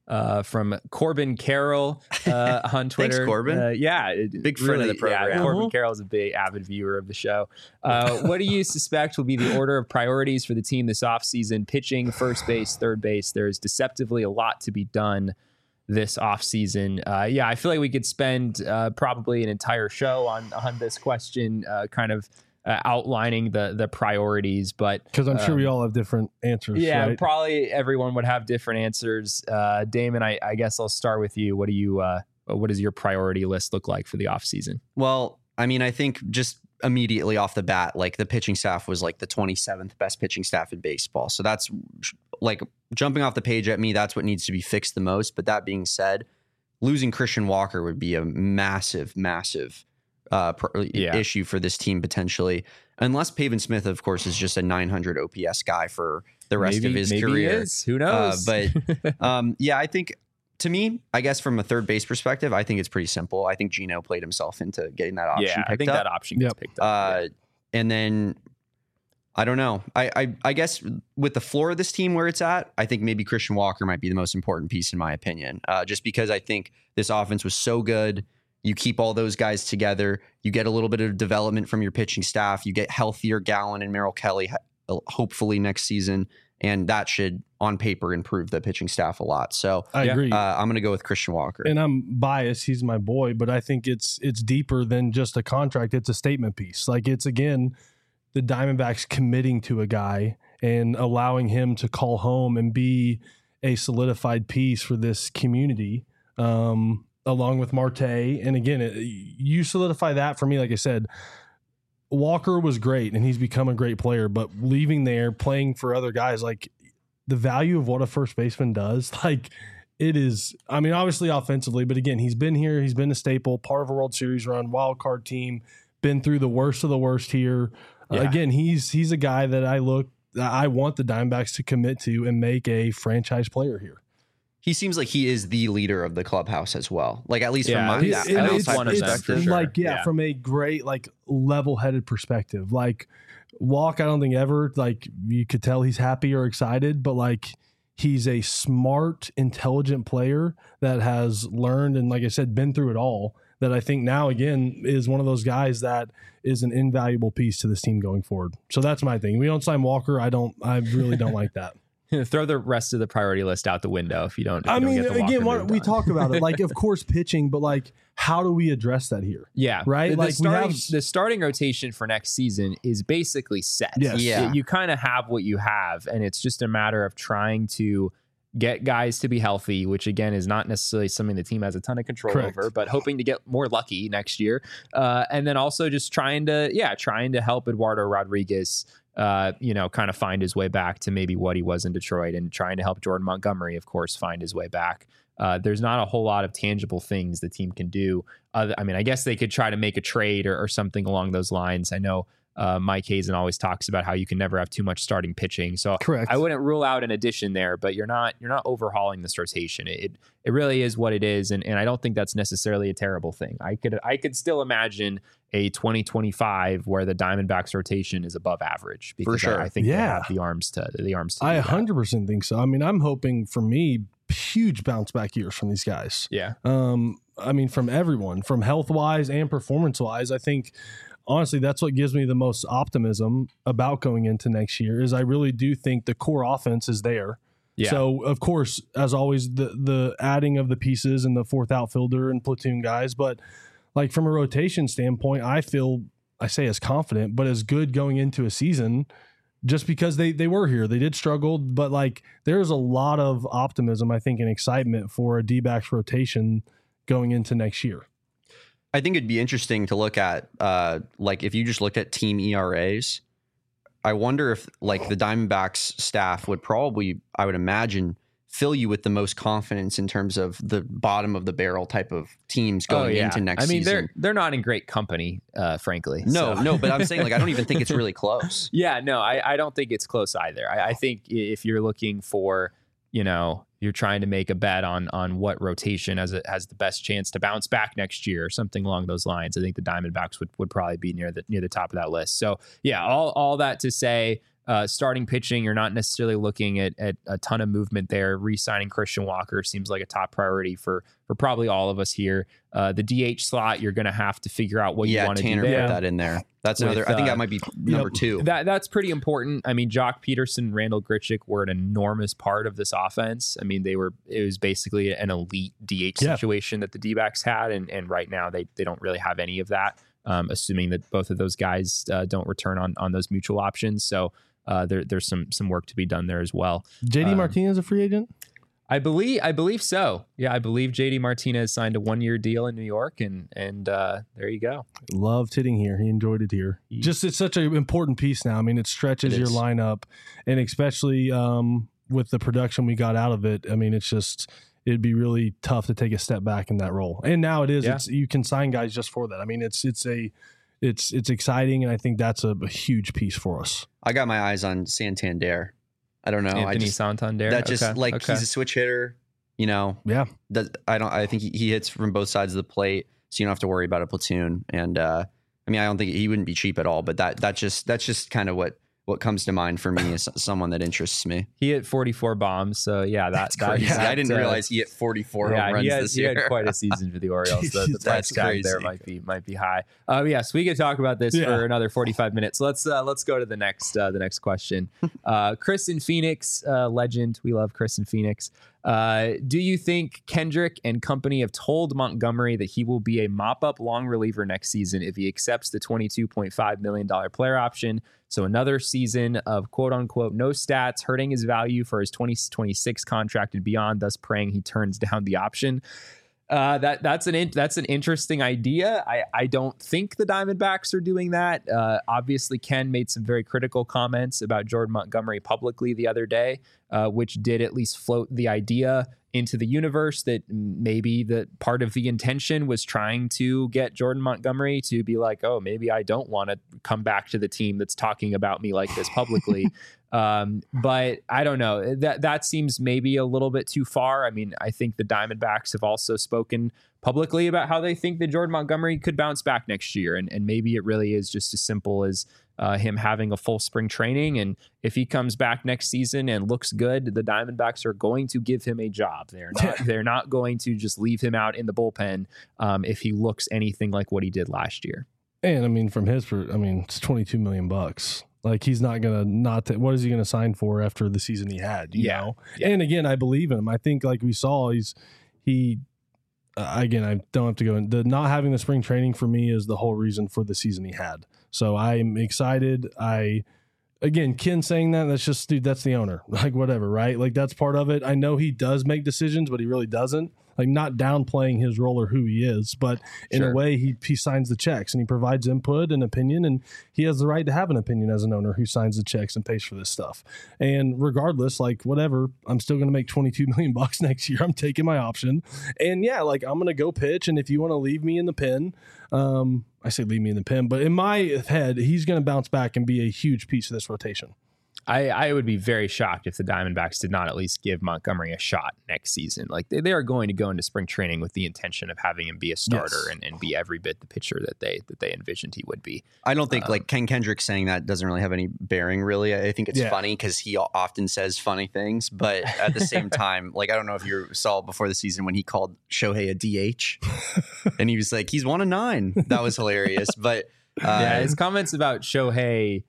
Speaker 1: uh, from Corbin Carroll uh, on Twitter.
Speaker 2: Thanks, Corbin.
Speaker 1: Uh, yeah,
Speaker 2: Big friend
Speaker 1: really,
Speaker 2: of the program.
Speaker 1: Yeah,
Speaker 3: Uh-huh.
Speaker 1: Corbin Carroll is a big avid viewer of the show. Uh, what do you suspect will be the order of priorities for the team this offseason? Pitching, first base, third base. There's deceptively a lot to be done this offseason. Uh, yeah, I feel like we could spend uh, probably an entire show on, on this question, uh, kind of uh, outlining the the priorities. But
Speaker 3: Because I'm sure
Speaker 1: um,
Speaker 3: we all have different answers.
Speaker 1: yeah,
Speaker 3: right?
Speaker 1: probably everyone would have different answers. Uh, Damon, I, I guess I'll start with you. What do you? Uh, what does your priority list look like for the offseason?
Speaker 2: Well, I mean, I think just immediately off the bat, like the pitching staff was like the twenty-seventh best pitching staff in baseball. So that's like jumping off the page at me. That's what needs to be fixed the most. But that being said, losing Christian Walker would be a massive, massive uh, pr-
Speaker 1: Yeah.
Speaker 2: issue for this team potentially. Unless Pavin Smith, of course, is just a nine hundred O P S guy for the rest
Speaker 1: maybe,
Speaker 2: of his
Speaker 1: maybe
Speaker 2: career.
Speaker 1: He is. Who
Speaker 2: Uh,
Speaker 1: knows?
Speaker 2: but um, yeah, I think to me, I guess from a third base perspective, I think it's pretty simple. I think Gino played himself into getting that option
Speaker 1: yeah,
Speaker 2: picked
Speaker 1: I think
Speaker 2: up.
Speaker 1: that option gets
Speaker 3: Yep.
Speaker 1: picked up.
Speaker 2: Uh, and then I don't know. I, I I guess with the floor of this team where it's at, I think maybe Christian Walker might be the most important piece in my opinion. Uh, just because I think this offense was so good. You keep all those guys together. You get a little bit of development from your pitching staff. You get healthier Gallen and Merrill Kelly, ho- hopefully next season, and that should, on paper, improve the pitching staff a lot. So
Speaker 3: I
Speaker 1: Yeah.
Speaker 3: agree.
Speaker 2: uh, I'm going to go with Christian Walker.
Speaker 3: and I'm biased. He's my boy, but I think it's it's deeper than just a contract. It's a statement piece. Like it's again the Diamondbacks committing to a guy and allowing him to call home and be a solidified piece for this community, um, along with Marte. And again, it, you solidify that for me. Like I said, Walker was great and he's become a great player, but leaving there, playing for other guys, like the value of what a first baseman does, like it is, I mean, obviously offensively, but again, he's been here, he's been a staple, part of a World Series run, wild card team, been through the worst of the worst here. Uh,
Speaker 1: Yeah.
Speaker 3: again, he's he's a guy that I look, I want the Diamondbacks to commit to and make a franchise player here.
Speaker 2: He seems like he is the leader of the clubhouse as well. Like at least
Speaker 1: Yeah,
Speaker 2: from my
Speaker 1: he's-
Speaker 2: an
Speaker 1: it's
Speaker 2: outside
Speaker 1: one of them,
Speaker 2: perspective.
Speaker 1: for sure.
Speaker 3: Like, yeah,
Speaker 1: Yeah.
Speaker 3: from a great, like, level-headed perspective. Like, Walk, I don't think ever, like, you could tell he's happy or excited, but, like, he's a smart, intelligent player that has learned and, like I said, been through it all, that I think now, again, is one of those guys that is an invaluable piece to this team going forward. So that's my thing. We don't sign Walker. I don't, I really don't like that.
Speaker 1: Throw the rest of the priority list out the window if you don't. If
Speaker 3: I
Speaker 1: you don't
Speaker 3: mean,
Speaker 1: get the
Speaker 3: again,
Speaker 1: Walker
Speaker 3: why,
Speaker 1: moved
Speaker 3: we
Speaker 1: on.
Speaker 3: talk about it. Like, of course, pitching, but, like, how do we address that here?
Speaker 1: Yeah.
Speaker 3: Right?
Speaker 1: The, the
Speaker 3: Like, we
Speaker 1: starting,
Speaker 3: have-
Speaker 1: the starting rotation for next season is basically set.
Speaker 3: Yes.
Speaker 2: Yeah.
Speaker 1: You, you kind of have what you have, and it's just a matter of trying to get guys to be healthy, which again is not necessarily something the team has a ton of control
Speaker 3: Correct.
Speaker 1: over, but hoping to get more lucky next year. Uh, and then also just trying to, yeah, trying to help Eduardo Rodriguez, uh, you know, kind of find his way back to maybe what he was in Detroit, and trying to help Jordan Montgomery, of course, find his way back. Uh, there's not a whole lot of tangible things the team can do. Uh, I mean, I guess they could try to make a trade or, or something along those lines. I know uh, Mike Hazen always talks about how you can never have too much starting pitching. So
Speaker 3: Correct.
Speaker 1: I wouldn't rule out an addition there, but you're not you're not overhauling this rotation. It it really is what it is, and, and I don't think that's necessarily a terrible thing. I could I could still imagine a twenty twenty-five where the Diamondbacks rotation is above average because
Speaker 2: sure.
Speaker 1: I, I think they
Speaker 3: Yeah.
Speaker 1: have the arms to the arms to
Speaker 3: I
Speaker 1: do
Speaker 3: one
Speaker 1: that.
Speaker 3: hundred percent think so. I mean, I'm hoping for me huge bounce back years from these guys.
Speaker 1: Yeah.
Speaker 3: Um, I mean, from everyone, from health wise and performance wise. I think honestly that's what gives me the most optimism about going into next year. Is I really do think the core offense is there.
Speaker 1: Yeah.
Speaker 3: So of course, as always, the the adding of the pieces and the fourth outfielder and platoon guys, but like from a rotation standpoint, I feel I say as confident, but as good going into a season. Just because they they were here, they did struggle, but like there's a lot of optimism, I think, and excitement for a D-backs rotation going into next year.
Speaker 2: I think it'd be interesting to look at, uh, like if you just looked at team E R As, I wonder if like the Diamondbacks staff would probably, I would imagine, fill you with the most confidence in terms of the bottom of the barrel type of teams going into next
Speaker 1: I mean,
Speaker 2: season.
Speaker 1: they're they're not in great company, uh, frankly.
Speaker 2: No,
Speaker 1: So-
Speaker 2: no, but I'm saying like I don't even think it's really close.
Speaker 1: Yeah, no, I, I don't think it's close either. I, I think i- if you're looking for, you know, you're trying to make a bet on on what rotation has a, has the best chance to bounce back next year or something along those lines, I think the Diamondbacks would, would probably be near the near the top of that list. So yeah, all all that to say, Uh, starting pitching, you're not necessarily looking at, at a ton of movement there. Re-signing Christian Walker seems like a top priority for for probably all of us here. Uh, the D H slot, you're going to have to figure out what
Speaker 2: yeah,
Speaker 1: you want to do
Speaker 2: Tanner
Speaker 1: there.
Speaker 2: put that in there. That's
Speaker 1: With,
Speaker 2: another. I think
Speaker 1: uh,
Speaker 2: that might be number
Speaker 3: yep.
Speaker 2: two.
Speaker 1: That that's pretty important. I mean, Jock Peterson, Randall Grichuk were an enormous part of this offense. I mean, they were. It was basically an elite D H
Speaker 3: Yeah.
Speaker 1: situation that the D-backs had, and and right now they they don't really have any of that. Um, assuming that both of those guys uh, don't return on on those mutual options, so. Uh, there, there's some some work to be done there as well.
Speaker 3: J D
Speaker 1: Um,
Speaker 3: Martinez a free agent?
Speaker 1: I believe I believe so. Yeah, I believe J D Martinez signed a one year deal in New York, and and uh, there you go.
Speaker 3: Loved hitting here. He enjoyed it here.
Speaker 1: He-
Speaker 3: Just it's such an important piece now. I mean, it stretches
Speaker 2: It
Speaker 3: your
Speaker 2: is.
Speaker 3: lineup, and especially um, with the production we got out of it. I mean, it's just it'd be really tough to take a step back in that role. And now it is.
Speaker 1: Yeah.
Speaker 3: It's you can sign guys just for that. I mean, it's it's a it's it's exciting, and I think that's a, a huge piece for us.
Speaker 2: I got my eyes on Santander. I don't know. I
Speaker 1: Anthony
Speaker 2: just
Speaker 1: Santander.
Speaker 2: that just
Speaker 1: Okay,
Speaker 2: like
Speaker 1: okay.
Speaker 2: he's a switch hitter. You know,
Speaker 3: Yeah,
Speaker 2: does, I don't. I think he, he hits from both sides of the plate, so you don't have to worry about a platoon. And uh, I mean, I don't think he wouldn't be cheap at all. But that that just that's just kind of what what comes to mind for me as someone that interests me.
Speaker 1: He hit forty-four bombs, so yeah, that,
Speaker 2: That's
Speaker 1: that
Speaker 2: crazy.
Speaker 1: that,
Speaker 2: I didn't
Speaker 1: uh,
Speaker 2: realize he hit forty-four
Speaker 1: yeah,
Speaker 2: home runs
Speaker 1: he had,
Speaker 2: this
Speaker 1: he
Speaker 2: year.
Speaker 1: had quite a season for the Orioles. The, the price
Speaker 2: That's
Speaker 1: tag there
Speaker 2: crazy.
Speaker 1: might be might be high. Um, yes, we could talk about this
Speaker 3: Yeah.
Speaker 1: for another forty-five minutes. Let's uh, let's go to the next uh, the next question. Uh, Chris in Phoenix, uh, legend. We love Chris in Phoenix. Uh, do you think Kendrick and company have told Montgomery that he will be a mop-up long reliever next season if he accepts the twenty-two point five million dollars player option? So another season of quote-unquote no stats, hurting his value for his twenty twenty-six contract and beyond, thus praying he turns down the option. Uh, that that's an in, that's an interesting idea. I, I don't think the Diamondbacks are doing that. Uh, obviously, Ken made some very critical comments about Jordan Montgomery publicly the other day, uh, which did at least float the idea into the universe that maybe that part of the intention was trying to get Jordan Montgomery to be like, oh, maybe I don't want to come back to the team that's talking about me like this publicly. Um, but I don't know. That that seems maybe a little bit too far. I mean, I think the Diamondbacks have also spoken publicly about how they think that Jordan Montgomery could bounce back next year. And, and maybe it really is just as simple as uh, him having a full spring training. And if he comes back next season and looks good, the Diamondbacks are going to give him a job. They're not, they're not going to just leave him out in the bullpen um, if he looks anything like what he did last year.
Speaker 3: and I mean, from his, per- I mean, it's twenty-two million bucks. Like he's not gonna not. T- what is he gonna sign for after the season he had? You
Speaker 1: Yeah.
Speaker 3: know.
Speaker 1: Yeah.
Speaker 3: And again, I believe in him. I think like we saw, he's he. Uh, again, I don't have to go in. The not having the spring training for me is the whole reason for the season he had. So I'm excited. I again, Ken saying that, that's just dude. That's the owner. Like whatever, right? Like that's part of it. I know he does make decisions, but he really doesn't. Like not downplaying his role or who he is, but in
Speaker 1: Sure.
Speaker 3: a way, he he signs the checks and he provides input and opinion, and he has the right to have an opinion as an owner who signs the checks and pays for this stuff. And regardless, like whatever, I'm still going to make twenty-two million bucks next year. I'm taking my option, and yeah, like I'm going to go pitch. And if you want to leave me in the pen, um, I say leave me in the pen, but in my head, he's going to bounce back and be a huge piece of this rotation.
Speaker 1: I, I would be very shocked if the Diamondbacks did not at least give Montgomery a shot next season. Like they, they are going to go into spring training with the intention of having him be a starter
Speaker 3: Yes.
Speaker 1: and, and be every bit the pitcher that they that they envisioned he would be.
Speaker 2: I don't think
Speaker 1: Um,
Speaker 2: like Ken Kendrick saying that doesn't really have any bearing. Really, I think it's
Speaker 3: Yeah.
Speaker 2: funny because he often says funny things, but at the same time, like I don't know if you saw before the season when he called Shohei a D H, and he was like, "He's one of nine." That was hilarious. But uh,
Speaker 1: yeah, his comments about Shohei,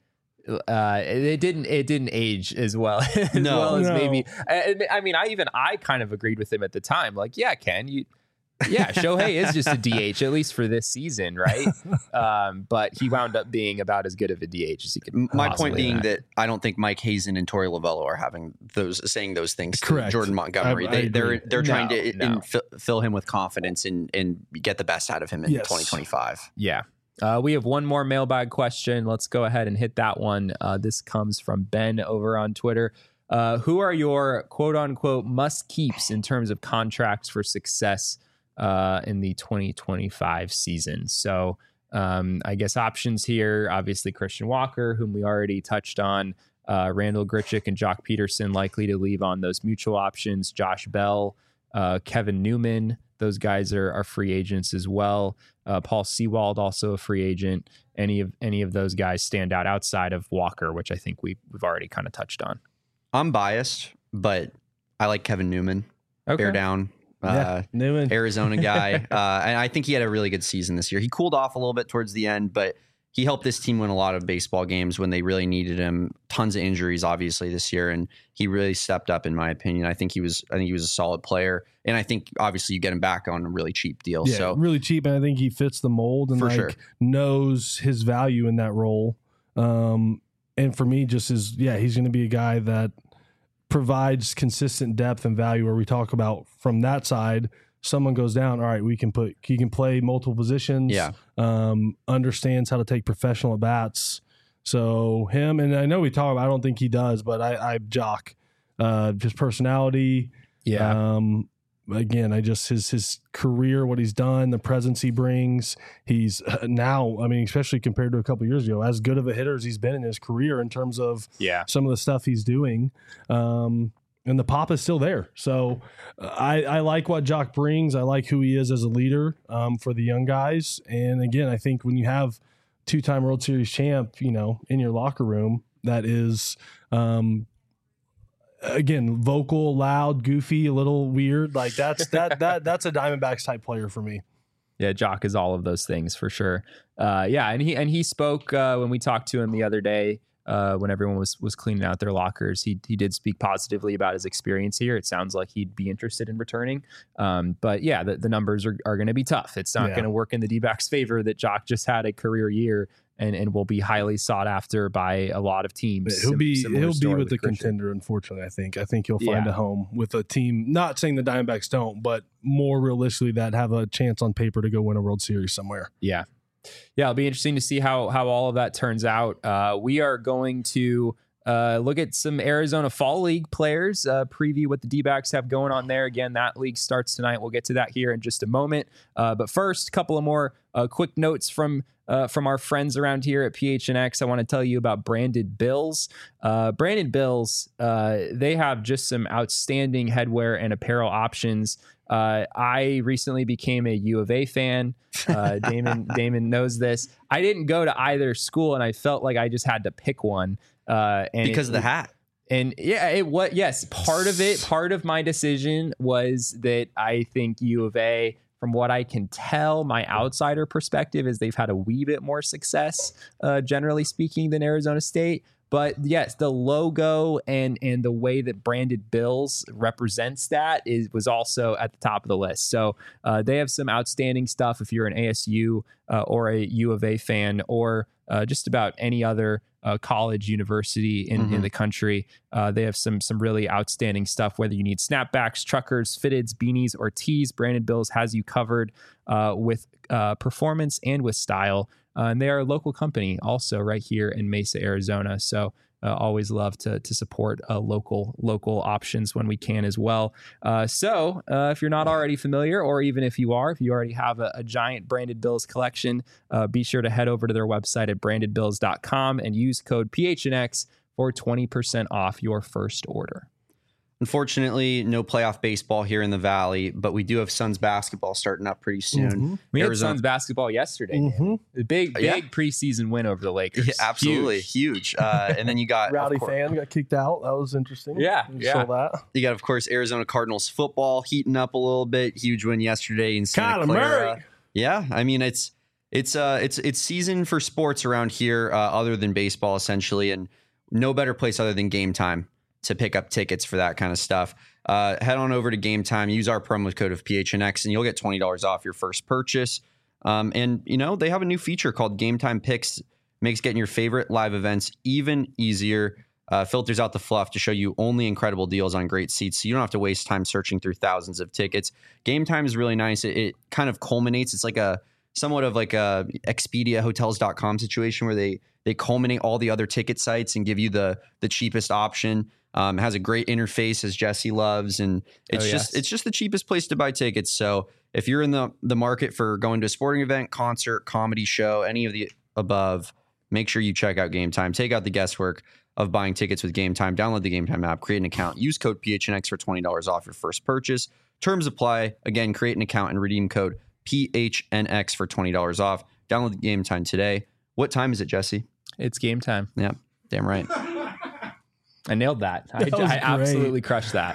Speaker 1: uh, it, it didn't it didn't age as well as
Speaker 2: No.
Speaker 1: well as
Speaker 3: No.
Speaker 1: maybe. I, I mean, I even I kind of agreed with him at the time. Like, yeah, Ken, you. Yeah, Shohei is just a D H, at least for this season, right? Um, but he wound up being about as good of a D H as he could.
Speaker 2: my
Speaker 1: possibly
Speaker 2: point being
Speaker 1: have.
Speaker 2: that I don't think Mike Hazen and Torey Lovello are having those saying those things to
Speaker 3: Correct.
Speaker 2: Jordan Montgomery.
Speaker 3: I- I
Speaker 2: they, they're
Speaker 3: agree.
Speaker 2: they're trying
Speaker 1: No,
Speaker 2: to
Speaker 1: no.
Speaker 2: in, fill, fill him with confidence and and get the best out of him in
Speaker 3: Yes.
Speaker 2: twenty twenty-five.
Speaker 1: Yeah. Uh, we have one more mailbag question. Let's go ahead and hit that one. Uh, this comes from Ben over on Twitter. Uh, who are your quote unquote must keeps in terms of contracts for success uh, in the twenty twenty-five season? So um, I guess options here, obviously Christian Walker, whom we already touched on, uh, Randall Grichuk and Jock Peterson likely to leave on those mutual options, Josh Bell. uh, Kevin Newman. Those guys are, are free agents as well. Uh, Paul Sewald, also a free agent. Any of any of those guys stand out outside of Walker, which I think we, we've already kind of touched on?
Speaker 2: I'm biased, but I like Kevin Newman.
Speaker 1: Okay.
Speaker 2: Bear down. Uh,
Speaker 3: Yeah, Newman.
Speaker 2: Arizona guy. uh, and I think he had a really good season this year. He cooled off a little bit towards the end, but he helped this team win a lot of baseball games when they really needed him. Tons of injuries, obviously, this year, and he really stepped up, in my opinion. I think he was. I think he was a solid player, and I think obviously you get him back on a really cheap deal.
Speaker 3: Yeah,
Speaker 2: so
Speaker 3: really cheap, and I think he fits the mold and
Speaker 2: For
Speaker 3: like
Speaker 2: sure.
Speaker 3: knows his value in that role. Um, and for me, just is yeah, he's going to be a guy that provides consistent depth and value. Where we talk about from that side, someone goes down, all right, we can put he can play multiple positions.
Speaker 2: Yeah.
Speaker 3: Um, understands how to take professional at bats. So him, and I know we talk about, I don't think he does, but I, I jock, uh, his personality. Um, again, I just, his, his career, what he's done, the presence he brings, he's uh, now, I mean, especially compared to a couple years ago, as good of a hitter as he's been in his career in terms of
Speaker 1: Yeah.
Speaker 3: some of the stuff he's doing. Um, and the pop is still there. So uh, I, I like what Jock brings. I like who he is as a leader um, for the young guys. And again, I think when you have two-time World Series champ, you know, in your locker room, that is, um, again, vocal, loud, goofy, a little weird. Like that's that that that's a Diamondbacks type player for me.
Speaker 1: Yeah, Jock is all of those things for sure. Uh, yeah, and he and he spoke uh, when we talked to him the other day. Uh, when everyone was was cleaning out their lockers, he he did speak positively about his experience here. It sounds like he'd be interested in returning. Um, but yeah, the, the numbers are, are going to be tough. It's not
Speaker 3: Yeah.
Speaker 1: going to work in the D-backs' favor that Jock just had a career year and, and will be highly sought after by a lot of teams.
Speaker 3: He'll
Speaker 1: Sim-
Speaker 3: be
Speaker 1: similar
Speaker 3: he'll be
Speaker 1: story
Speaker 3: with the
Speaker 1: Christian.
Speaker 3: contender. Unfortunately, I think I think he'll find
Speaker 1: Yeah.
Speaker 3: a home with a team. Not saying the Diamondbacks don't, but more realistically, that have a chance on paper to go win a World Series somewhere.
Speaker 1: Yeah. Yeah, it'll be interesting to see how how all of that turns out. Uh, we are going to uh, look at some Arizona Fall League players, uh, preview what the D-backs have going on there. Again, that league starts tonight. We'll get to that here in just a moment. Uh, but first, a couple of more uh, quick notes from uh, from our friends around here at P H N X. I want to tell you about Branded Bills. Uh, Branded Bills, uh, they have just some outstanding headwear and apparel options. Uh, I recently became a U of A fan. Uh, Damon Damon knows this. I didn't go to either school, and I felt like I just had to pick one. Uh, and
Speaker 2: because
Speaker 1: it,
Speaker 2: of the hat.
Speaker 1: And yeah, it what yes, part of it, part of my decision was that I think U of A, from what I can tell, my outsider perspective is they've had a wee bit more success, uh, generally speaking, than Arizona State. But yes, the logo and and the way that Branded Bills represents that is was also at the top of the list. So uh, they have some outstanding stuff if you're an A S U uh, or a U of A fan or uh, just about any other uh, college university in,
Speaker 2: Mm-hmm.
Speaker 1: in the country. Uh, they have some some really outstanding stuff. Whether you need snapbacks, truckers, fitteds, beanies, or tees, Branded Bills has you covered uh, with uh, performance and with style. Uh, and they are a local company also right here in Mesa, Arizona. So uh, always love to to support uh, local local options when we can as well. Uh, so uh, if you're not already familiar, or even if you are, if you already have a, a giant Branded Bills collection, uh, be sure to head over to their website at branded bills dot com and use code P H N X for twenty percent off your first order.
Speaker 2: Unfortunately, no playoff baseball here in the Valley, but we do have Suns basketball starting up pretty soon.
Speaker 3: Mm-hmm.
Speaker 1: We
Speaker 2: Arizona-
Speaker 1: had Suns basketball yesterday.
Speaker 3: Mm-hmm.
Speaker 1: A big, big
Speaker 2: Yeah.
Speaker 1: preseason win over the Lakers.
Speaker 2: Yeah, absolutely
Speaker 1: Huge.
Speaker 2: huge. Uh, and then you got
Speaker 3: Rowdy
Speaker 2: of course,
Speaker 3: fan got kicked out. That was interesting.
Speaker 1: Yeah,
Speaker 3: You
Speaker 1: yeah.
Speaker 3: saw that.
Speaker 2: you got of course Arizona Cardinals football heating up a little bit. Huge win yesterday in Santa
Speaker 3: Kyler
Speaker 2: Clara.
Speaker 3: Murray.
Speaker 2: Yeah, I mean it's it's uh it's it's season for sports around here, uh, other than baseball essentially, and no better place other than Game Time to pick up tickets for that kind of stuff. Uh, head on over to Game Time, use our promo code of P H N X, and you'll get twenty dollars off your first purchase. Um, and you know they have a new feature called Game Time Picks, makes getting your favorite live events even easier. Uh, filters out the fluff to show you only incredible deals on great seats, so you don't have to waste time searching through thousands of tickets. Game Time is really nice. It, it kind of culminates. It's like a somewhat of like a Expedia Hotels dot com situation where they they culminate all the other ticket sites and give you the the cheapest option. Um, it has a great interface, as Jesse loves, and it's
Speaker 1: Oh,
Speaker 2: just
Speaker 1: yes.
Speaker 2: it's just the cheapest place to buy tickets. So if you're in the the market for going to a sporting event, concert, comedy show, any of the above, make sure you check out Game Time. Take out the guesswork of buying tickets with Game Time. Download the Game Time app, create an account, use code P H N X for twenty dollars off your first purchase. Terms apply. Again, create an account and redeem code P H N X for twenty dollars off. Download the Game Time today. What time is it, Jesse?
Speaker 1: It's game time.
Speaker 2: Yeah, damn right.
Speaker 1: I nailed that.
Speaker 3: That
Speaker 1: I,
Speaker 3: was
Speaker 1: I absolutely crushed that.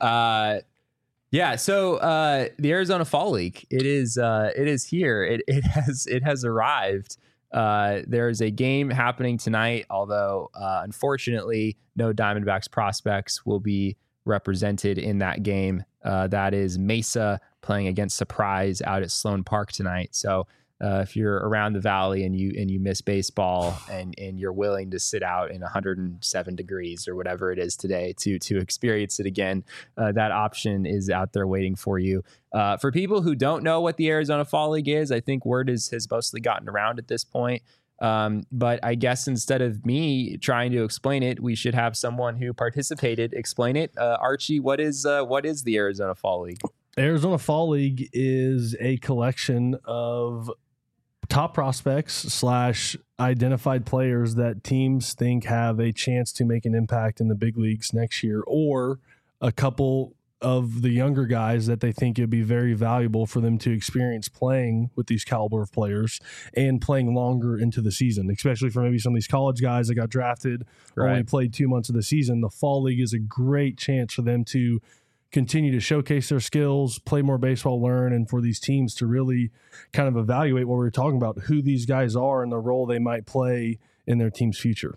Speaker 1: Uh, yeah. So uh, the Arizona Fall League, it is uh, it is here. It it has it has arrived. Uh, there's a game happening tonight, although uh, unfortunately, no Diamondbacks prospects will be represented in that game. Uh, that is Mesa playing against Surprise out at Sloan Park tonight. So uh, if you're around the Valley and you and you miss baseball and and you're willing to sit out in one hundred seven degrees or whatever it is today to to experience it again, uh, that option is out there waiting for you. Uh, for people who don't know what the Arizona Fall League is, I think word is, has mostly gotten around at this point. Um, but I guess instead of me trying to explain it, we should have someone who participated explain it. Uh, Archie, what is uh, what is the Arizona Fall League?
Speaker 3: Arizona Fall League is a collection of top prospects slash identified players that teams think have a chance to make an impact in the big leagues next year, or a couple of the younger guys that they think it'd be very valuable for them to experience playing with these caliber of players and playing longer into the season, especially for maybe some of these college guys that got drafted or
Speaker 1: Right.
Speaker 3: only played two months of the season. The Fall League is a great chance for them to continue to showcase their skills, play more baseball, learn, and for these teams to really kind of evaluate what we were talking about, who these guys are and the role they might play in their team's future.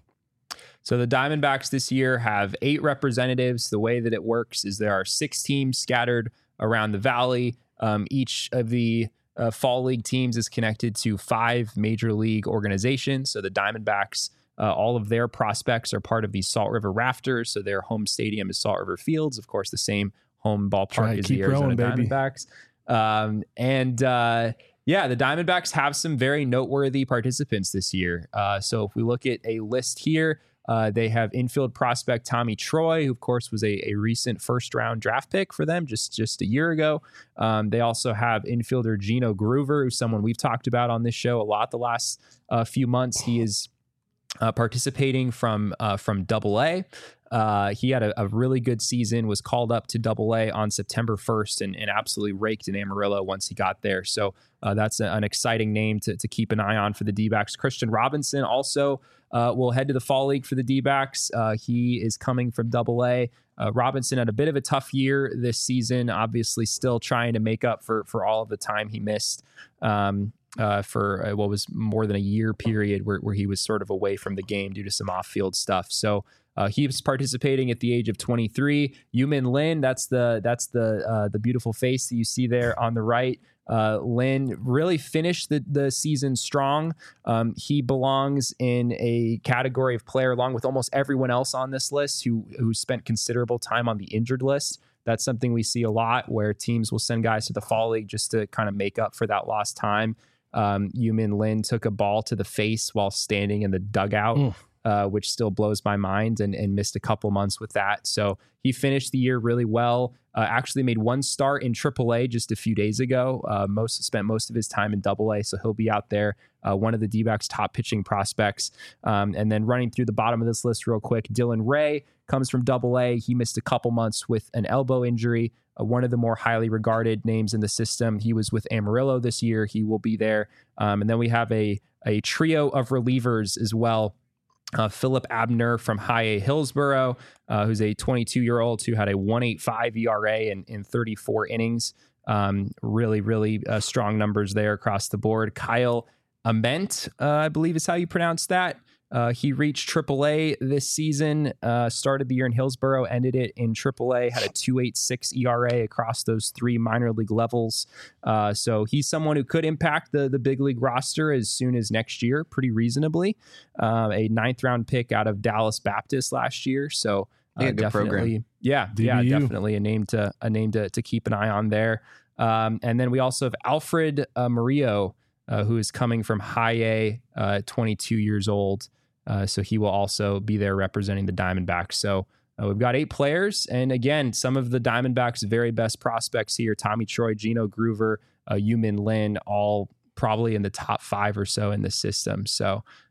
Speaker 1: So the Diamondbacks this year have eight representatives. The way that it works is there are six teams scattered around the Valley. Um, each of the uh, Fall League teams is connected to five major league organizations. So the Diamondbacks, uh, all of their prospects are part of the Salt River Rafters. So their home stadium is Salt River Fields, of course, the same home ballpark
Speaker 3: Try to
Speaker 1: as
Speaker 3: keep
Speaker 1: the Arizona
Speaker 3: growing, baby.
Speaker 1: Diamondbacks. Um, and uh, yeah, the Diamondbacks have some very noteworthy participants this year. Uh, so if we look at a list here, Uh, they have infield prospect Tommy Troy, who of course was a, a recent first round draft pick for them just, just a year ago. Um, they also have infielder Gino Groover, who's someone we've talked about on this show a lot the last uh, few months. He is uh, participating from uh, from Double A. Uh, he had a, a really good season, was called up to Double A on September first and, and absolutely raked in Amarillo once he got there. So uh, that's a, an exciting name to, to keep an eye on for the D-backs. Christian Robinson also uh, will head to the Fall League for the D-backs. Uh, he is coming from Double A. Uh, Robinson had a bit of a tough year this season, obviously still trying to make up for, for all of the time he missed um, uh, for uh, what was more than a year period where, where he was sort of away from the game due to some off-field stuff. So Uh, he was participating at the age of twenty-three. Yumin Lin, that's the that's the uh, the beautiful face that you see there on the right. Uh, Lin really finished the, the season strong. Um, he belongs in a category of player along with almost everyone else on this list who who spent considerable time on the injured list. That's something we see a lot where teams will send guys to the Fall League just to kind of make up for that lost time. Um, Yumin Lin took a ball to the face while standing in the dugout. Mm. Uh, which still blows my mind, and, and missed a couple months with that. So he finished the year really well. Uh, actually made one start in triple A just a few days ago. Uh, most spent most of his time in double A, so he'll be out there. Uh, one of the D-backs' top pitching prospects. Um, and then running through the bottom of this list real quick, Dylan Ray comes from double A. He missed a couple months with an elbow injury. Uh, one of the more highly regarded names in the system. He was with Amarillo this year. He will be there. Um, and then we have a a trio of relievers as well. Uh, Philip Abner from High A Hillsboro, uh, who's a twenty-two-year-old who had a one point eight five E R A in, in thirty-four innings. Um, really, really uh, strong numbers there across the board. Kyle Ament, uh, I believe is how you pronounce that. Uh, he reached triple A this season, uh, started the year in Hillsboro, ended it in triple A, had a two point eight six E R A across those three minor league levels. Uh, so he's someone who could impact the, the big league roster as soon as next year, pretty reasonably. Uh, a ninth round pick out of Dallas Baptist last year. So uh,
Speaker 2: yeah,
Speaker 1: definitely,
Speaker 2: program.
Speaker 1: yeah,
Speaker 3: D B U.
Speaker 1: yeah, definitely a name to a name to, to keep an eye on there. Um, and then we also have Alfred uh, Murillo, uh, who is coming from High A, uh, twenty-two years old. Uh, so he will also be there representing the Diamondbacks. So uh, we've got eight players. And again, some of the Diamondbacks' very best prospects here, Tommy Troy, Gino Groover, uh, Yumin Lin, all probably in the top five or so in the system. So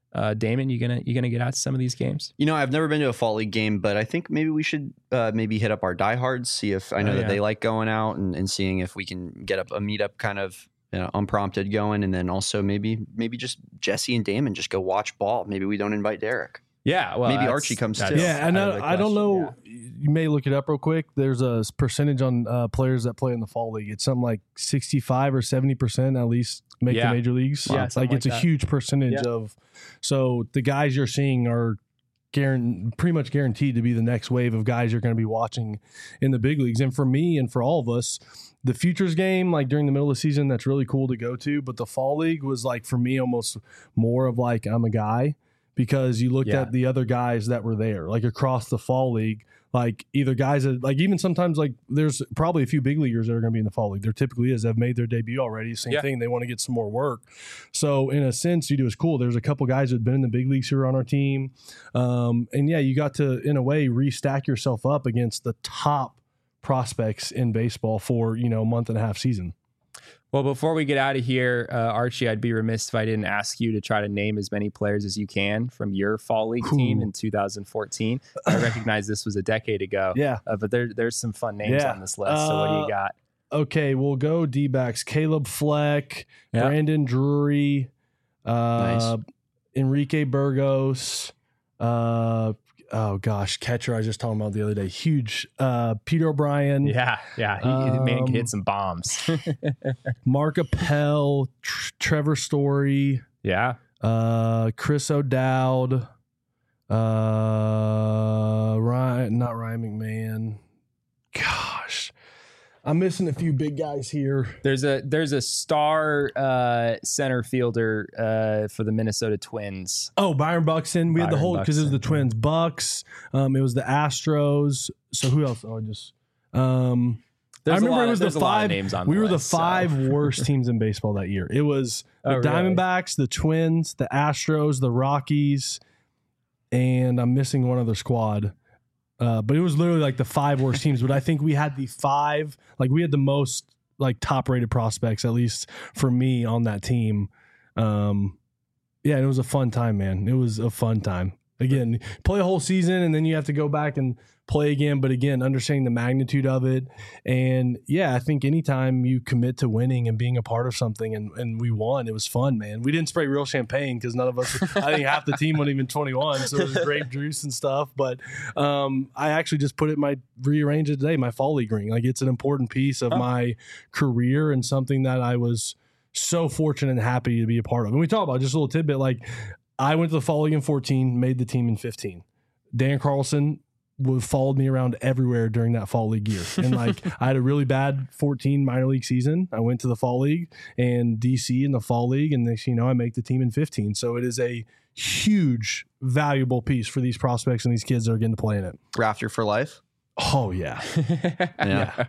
Speaker 1: Uh, Damon, you gonna you gonna get out to some of these games?
Speaker 2: You know, I've never been to a fall league game, but I think maybe we should uh, maybe hit up our diehards, see if I know
Speaker 1: Oh,
Speaker 2: that
Speaker 1: yeah.
Speaker 2: they like going out and, and seeing if we can get up a meetup kind of you know, unprompted going, and then also maybe maybe just Jesse and Damon just go watch ball. Maybe we don't invite Derek.
Speaker 1: Yeah, well,
Speaker 2: Maybe
Speaker 1: that's-
Speaker 2: Archie comes
Speaker 1: that's
Speaker 2: too.
Speaker 3: Yeah, and
Speaker 1: out of the
Speaker 3: I, I don't
Speaker 1: question,
Speaker 3: know. You may look it up real quick. There's a percentage on uh, players that play in the fall league. It's something like sixty-five or seventy percent at least make
Speaker 1: Yeah.
Speaker 3: the major leagues.
Speaker 1: Yeah,
Speaker 3: like
Speaker 1: something
Speaker 3: it's
Speaker 1: like
Speaker 3: a
Speaker 1: that.
Speaker 3: huge percentage
Speaker 1: Yeah.
Speaker 3: of. So the guys you're seeing are guaranteed, pretty much guaranteed to be the next wave of guys you're going to be watching in the big leagues. And for me and for all of us, the futures game, like during the middle of the season, that's really cool to go to. But the fall league was like for me almost more of like I'm a guy. Because you looked
Speaker 1: Yeah.
Speaker 3: at the other guys that were there, like across the fall league, like either guys that, like even sometimes, like there's probably a few big leaguers that are going to be in the fall league. There typically is. They've made their debut already. Same
Speaker 1: Yeah.
Speaker 3: thing. They want to get some more work. So in a sense, you do is cool. There's a couple guys that have been in the big leagues who are on our team, um, and yeah, you got to in a way restack yourself up against the top prospects in baseball for you know a month and a half season.
Speaker 1: Well, before we get out of here, uh, Archie, I'd be remiss if I didn't ask you to try to name as many players as you can from your fall league team
Speaker 3: Ooh.
Speaker 1: in two thousand fourteen. I recognize this was a decade ago,
Speaker 3: Yeah.
Speaker 1: uh, but there, there's some fun names
Speaker 3: Yeah.
Speaker 1: on this list. So what do
Speaker 3: Uh,
Speaker 1: you got?
Speaker 3: Okay, we'll go D-backs. Caleb Fleck,
Speaker 1: Yeah.
Speaker 3: Brandon Drury, uh,
Speaker 2: Nice.
Speaker 3: Enrique Burgos. Uh, oh gosh, catcher I was just talking about the other day. Huge. Uh, Peter O'Brien,
Speaker 1: Yeah, yeah, he, the man can
Speaker 3: um,
Speaker 1: hit some bombs.
Speaker 3: Mark Appel, Tr- Trevor Story,
Speaker 1: yeah,
Speaker 3: uh, Chris O'Dowd, uh, Ryan, not Ryan McMahon. Gosh, I'm missing a few big guys here.
Speaker 1: there's a there's a star uh, center fielder uh, for the Minnesota Twins.
Speaker 3: Oh, Byron Buxton. We had the
Speaker 1: Byron
Speaker 3: whole because it was the
Speaker 1: Buxton,
Speaker 3: Twins, Bucks. Um, it was the Astros. So who else? Oh, I just. Um,
Speaker 1: There's
Speaker 3: I remember
Speaker 1: a lot
Speaker 3: it
Speaker 1: of-
Speaker 3: was the
Speaker 1: there's a lot of
Speaker 3: five.
Speaker 1: names on
Speaker 3: we
Speaker 1: the
Speaker 3: were
Speaker 1: list,
Speaker 3: the
Speaker 1: so.
Speaker 3: five worst teams in baseball that year. It was the
Speaker 1: Oh, really?
Speaker 3: Diamondbacks, the Twins, the Astros, the Rockies, and I'm missing one other squad. Uh, but it was literally like the five worst teams. But I think we had the five, like we had the most like top rated prospects, at least for me on that team. Um, yeah, and it was a fun time, man. It was a fun time. Again, play a whole season and then you have to go back and play again. But again, understanding the magnitude of it. And yeah, I think anytime you commit to winning and being a part of something and, and we won, it was fun, man. We didn't spray real champagne because none of us, I think half the team wasn't even twenty-one. So it was grape juice and stuff. But um, I actually just put it in my rearranged it today, my fall league ring. Like it's an important piece of
Speaker 1: Huh.
Speaker 3: my career and something that I was so fortunate and happy to be a part of. And we talk about just a little tidbit, like I went to the fall league in fourteen, made the team in fifteen. Dan Carlson would followed me around everywhere during that fall league year. And like I had a really bad fourteen minor league season. I went to the fall league and D C in the fall league. And next, you know, I make the team in fifteen. So it is a huge, valuable piece for these prospects and these kids that are getting to play in it.
Speaker 2: Rafter for life.
Speaker 3: Oh yeah.
Speaker 2: Yeah.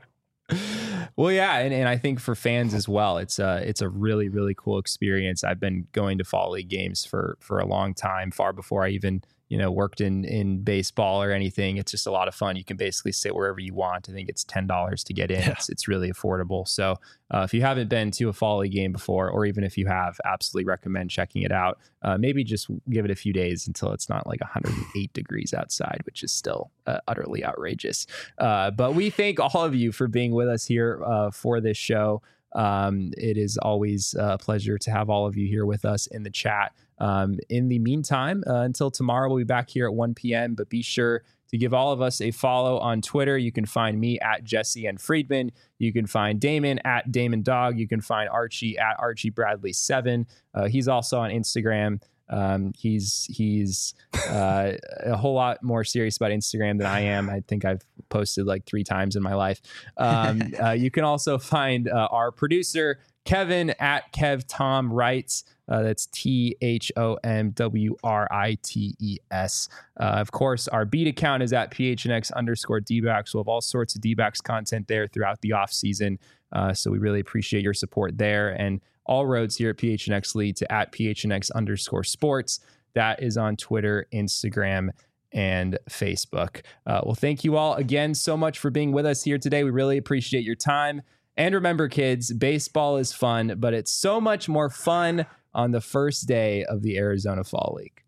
Speaker 1: Well, yeah, and, and I think for fans as well, it's a it's a really really cool experience. I've been going to fall league games for for a long time, far before I even you know worked in in baseball or anything. It's just a lot of fun. You can basically sit wherever you want. I think it's ten dollars to get in.
Speaker 3: Yeah.
Speaker 1: It's it's really affordable. So uh, if you haven't been to a fall league game before, or even if you have, absolutely recommend checking it out. Uh, maybe just give it a few days until it's not like one hundred eight degrees outside, which is still uh, utterly outrageous. Uh, but we thank all of you for being with us here uh, for this show. Um, it is always a pleasure to have all of you here with us in the chat. Um, in the meantime, uh, until tomorrow, we'll be back here at one p.m. But be sure to give all of us a follow on Twitter. You can find me at Jesse and Friedman. You can find Damon at Damon Dog. You can find Archie at Archie Bradley seven. Uh, he's also on Instagram. Um, he's he's uh, a whole lot more serious about Instagram than I am. I think I've posted like three times in my life. Um, uh, you can also find uh, our producer Kevin at Kev Tom Writes. Uh, that's T H O M W R I T E S. Uh, of course, our beat account is at P H N X underscore D-backs. We'll have all sorts of D-backs content there throughout the off season. Uh, so we really appreciate your support there. And all roads here at P H N X lead to at P H N X underscore sports. That is on Twitter, Instagram, and Facebook. Uh, well, thank you all again so much for being with us here today. We really appreciate your time. And remember, kids, baseball is fun, but it's so much more fun on the first day of the Arizona Fall League.